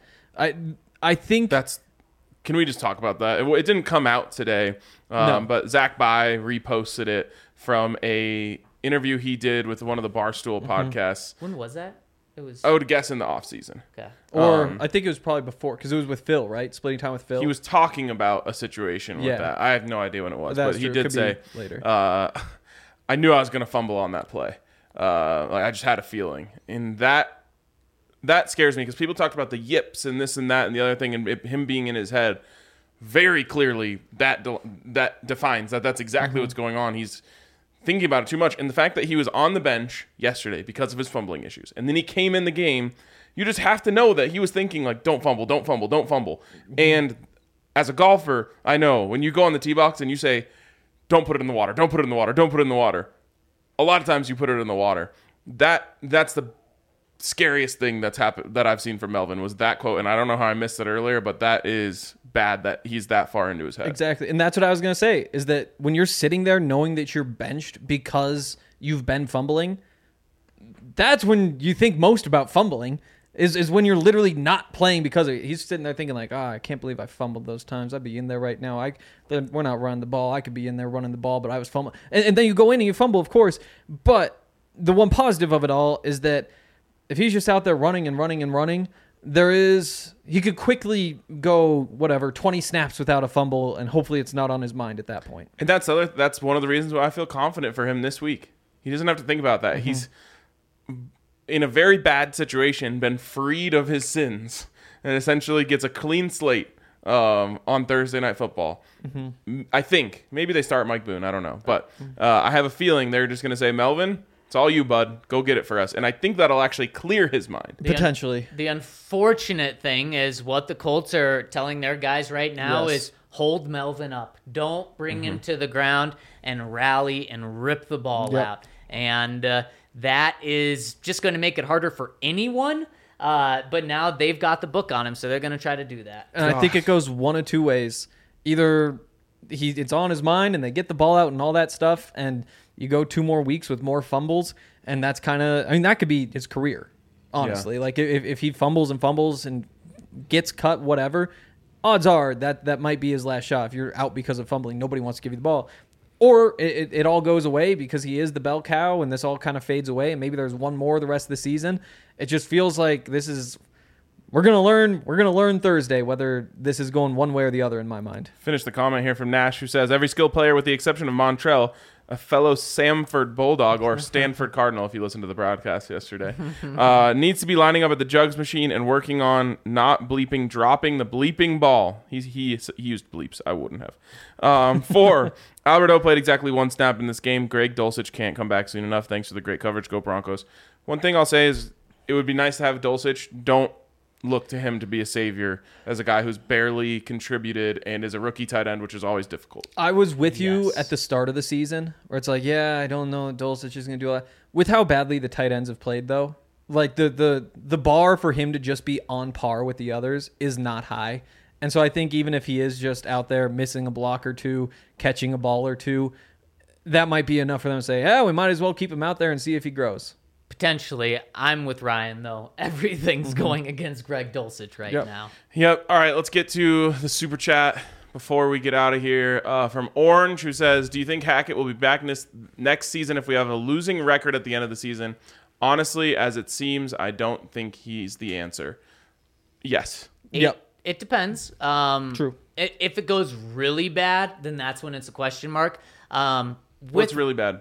I think That's. Can we just talk about that? It didn't come out today, No. but Zach Bye reposted it from a interview he did with one of the Barstool podcasts. When was that? It was I would guess in the offseason. okay. or I think it was probably before because it was with Phil, right? Splitting time with Phil. He was talking about a situation with Yeah. that. I have no idea when it was, That's but he true. did Could be say later. I knew I was going to fumble on that play. I just had a feeling, and that scares me because people talked about the yips and this and that and the other thing, and him being in his head. Very clearly, that defines that's exactly what's going on. He's thinking about it too much, and the fact that he was on the bench yesterday because of his fumbling issues, and then he came in the game. You just have to know that he was thinking like, "Don't fumble, don't fumble, don't fumble." And as a golfer, I know when you go on the tee box and you say, "Don't put it in the water, don't put it in the water, don't put it in the water." A lot of times you put it in the water. That's the scariest thing that's happened that I've seen from Melvin was that quote, and I don't know how I missed it earlier, but that is bad that he's that far into his head. Exactly. And that's what I was going to say is that when you're sitting there knowing that you're benched because you've been fumbling, that's when you think most about fumbling is when you're literally not playing because of it. He's sitting there thinking like, I can't believe I fumbled those times. I'd be in there right now. We're not running the ball. I could be in there running the ball, but I was fumbling. And then you go in and you fumble, of course. But the one positive of it all is that if he's just out there running and running and running, he could quickly go 20 snaps without a fumble, and hopefully it's not on his mind at that point. And that's one of the reasons why I feel confident for him this week. He doesn't have to think about that. He's in a very bad situation, been freed of his sins, and essentially gets a clean slate on Thursday Night Football. I think maybe they start Mike Boone. I don't know, but I have a feeling they're just going to say, "Melvin, it's all you, bud. Go get it for us." And I think that'll actually clear his mind. Potentially. The unfortunate thing is what the Colts are telling their guys right now Yes. is hold Melvin up. Don't bring him to the ground and rally and rip the ball Yep. out. And that is just going to make it harder for anyone. But now they've got the book on him, so they're going to try to do that. And I think it goes one of two ways. Either it's on his mind and they get the ball out and all that stuff, and you go 2 more weeks with more fumbles, and that's kind of, that could be his career. honestly. Like, if he fumbles and gets cut, whatever, odds are that might be his last shot. If you're out because of fumbling, nobody wants to give you the ball. Or it all goes away because he is the bell cow and this all kind of fades away and maybe there's one more the rest of the season. It just feels like we're going to learn Thursday whether this is going one way or the other in my mind. Finish the comment here from Nash, who says, every skill player with the exception of Montrell, a fellow Samford Bulldog or Stanford Cardinal, if you listened to the broadcast yesterday, needs to be lining up at the jugs machine and working on not dropping the bleeping ball. He used bleeps. I wouldn't have. 4, Alberto played exactly 1 snap in this game. Greg Dulcich can't come back soon enough. Thanks for the great coverage. Go Broncos. One thing I'll say is it would be nice to have Dulcich. Don't look to him to be a savior as a guy who's barely contributed and is a rookie tight end, which is always difficult. I was with you at the start of the season where it's like, yeah, I don't know, Dulcich is going to do a lot. With how badly the tight ends have played, though, like the bar for him to just be on par with the others is not high. And so I think even if he is just out there missing a block or two, catching a ball or two, that might be enough for them to say, we might as well keep him out there and see if he grows. Potentially. I'm with Ryan, though. Everything's going against Greg Dulcich right now. Yep. All right, let's get to the super chat before we get out of here. From Orange, who says, do you think Hackett will be back next season if we have a losing record at the end of the season? Honestly, as it seems, I don't think he's the answer. Yes. It depends. True. If it goes really bad, then that's when it's a question mark. What's really bad?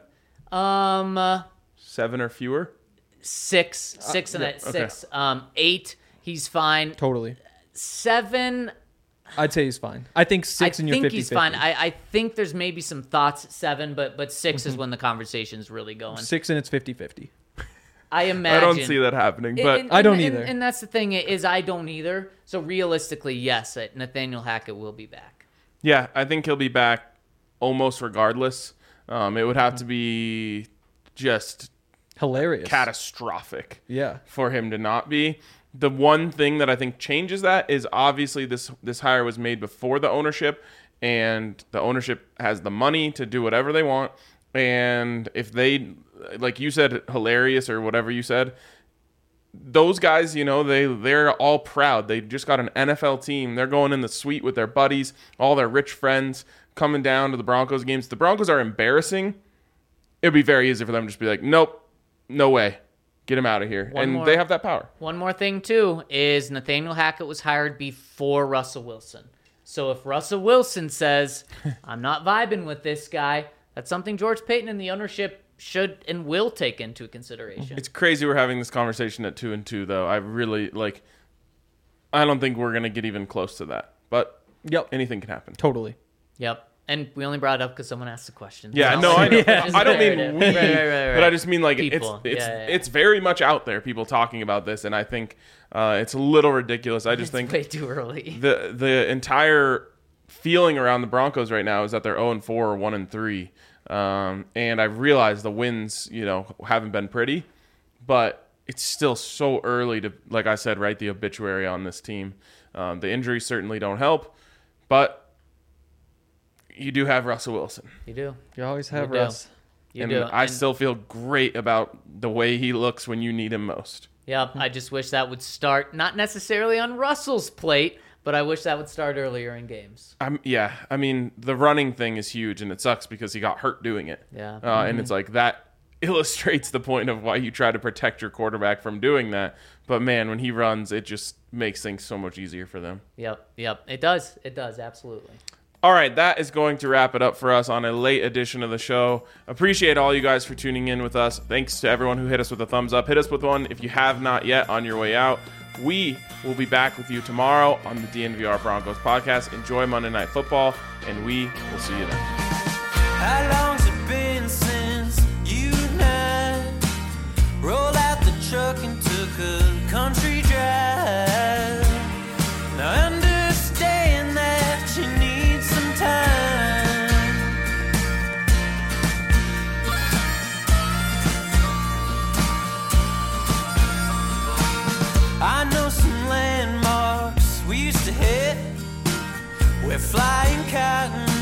7 or fewer? 6 and 6. 8, he's fine. Totally. 7, I'd say he's fine. I think 6 and you're 50-50. I think he's fine. I think there's maybe some thoughts at 7, but 6 is when the conversation's really going. 6 and it's 50-50. I imagine. I don't see that happening, but I don't either. And that's the thing is I don't either. So realistically, yes, Nathaniel Hackett will be back. Yeah, I think he'll be back almost regardless. It would have to be just hilarious, catastrophic, for him to not be. The one thing that I think changes that is obviously this hire was made before the ownership, and the ownership has the money to do whatever they want. And if they, like you said, hilarious or whatever you said, those guys, they're all proud. They just got an NFL team. They're going in the suite with their buddies, all their rich friends coming down to the Broncos games. The Broncos are embarrassing. It'd be very easy for them to just be like, nope, no way. Get him out of here. They have that power. One more thing, too, is Nathaniel Hackett was hired before Russell Wilson. So if Russell Wilson says, I'm not vibing with this guy, that's something George Payton and the ownership should and will take into consideration. It's crazy we're having this conversation at 2-2, though. I really, I don't think we're going to get even close to that. But anything can happen. Totally. Yep. And we only brought it up because someone asked the question. Yeah, so no, I know. I don't mean we, right. but I just mean people. It's very much out there, people talking about this, and I think it's a little ridiculous. I just think way too early. The entire feeling around the Broncos right now is that they're 0-4 or 1-3, and I've realized the wins, haven't been pretty, but it's still so early to, like I said, write the obituary on this team. The injuries certainly don't help, but you do have Russell Wilson. You do. You always have Russ. You do. I still feel great about the way he looks when you need him most. Yep. I just wish that would start, not necessarily on Russell's plate, but I wish that would start earlier in games. I mean, the running thing is huge, and it sucks because he got hurt doing it. Yeah. And it's like that illustrates the point of why you try to protect your quarterback from doing that. But, man, when he runs, it just makes things so much easier for them. Yep. It does. It does, absolutely. All right, that is going to wrap it up for us on a late edition of the show. Appreciate all you guys for tuning in with us. Thanks to everyone who hit us with a thumbs up. Hit us with one if you have not yet on your way out. We will be back with you tomorrow on the DNVR Broncos podcast. Enjoy Monday Night Football, and we will see you then. How long's it been since you and I rolled out the truck and took a country drive? Now understand that you need some time. I know some landmarks we used to hit. We're flying cotton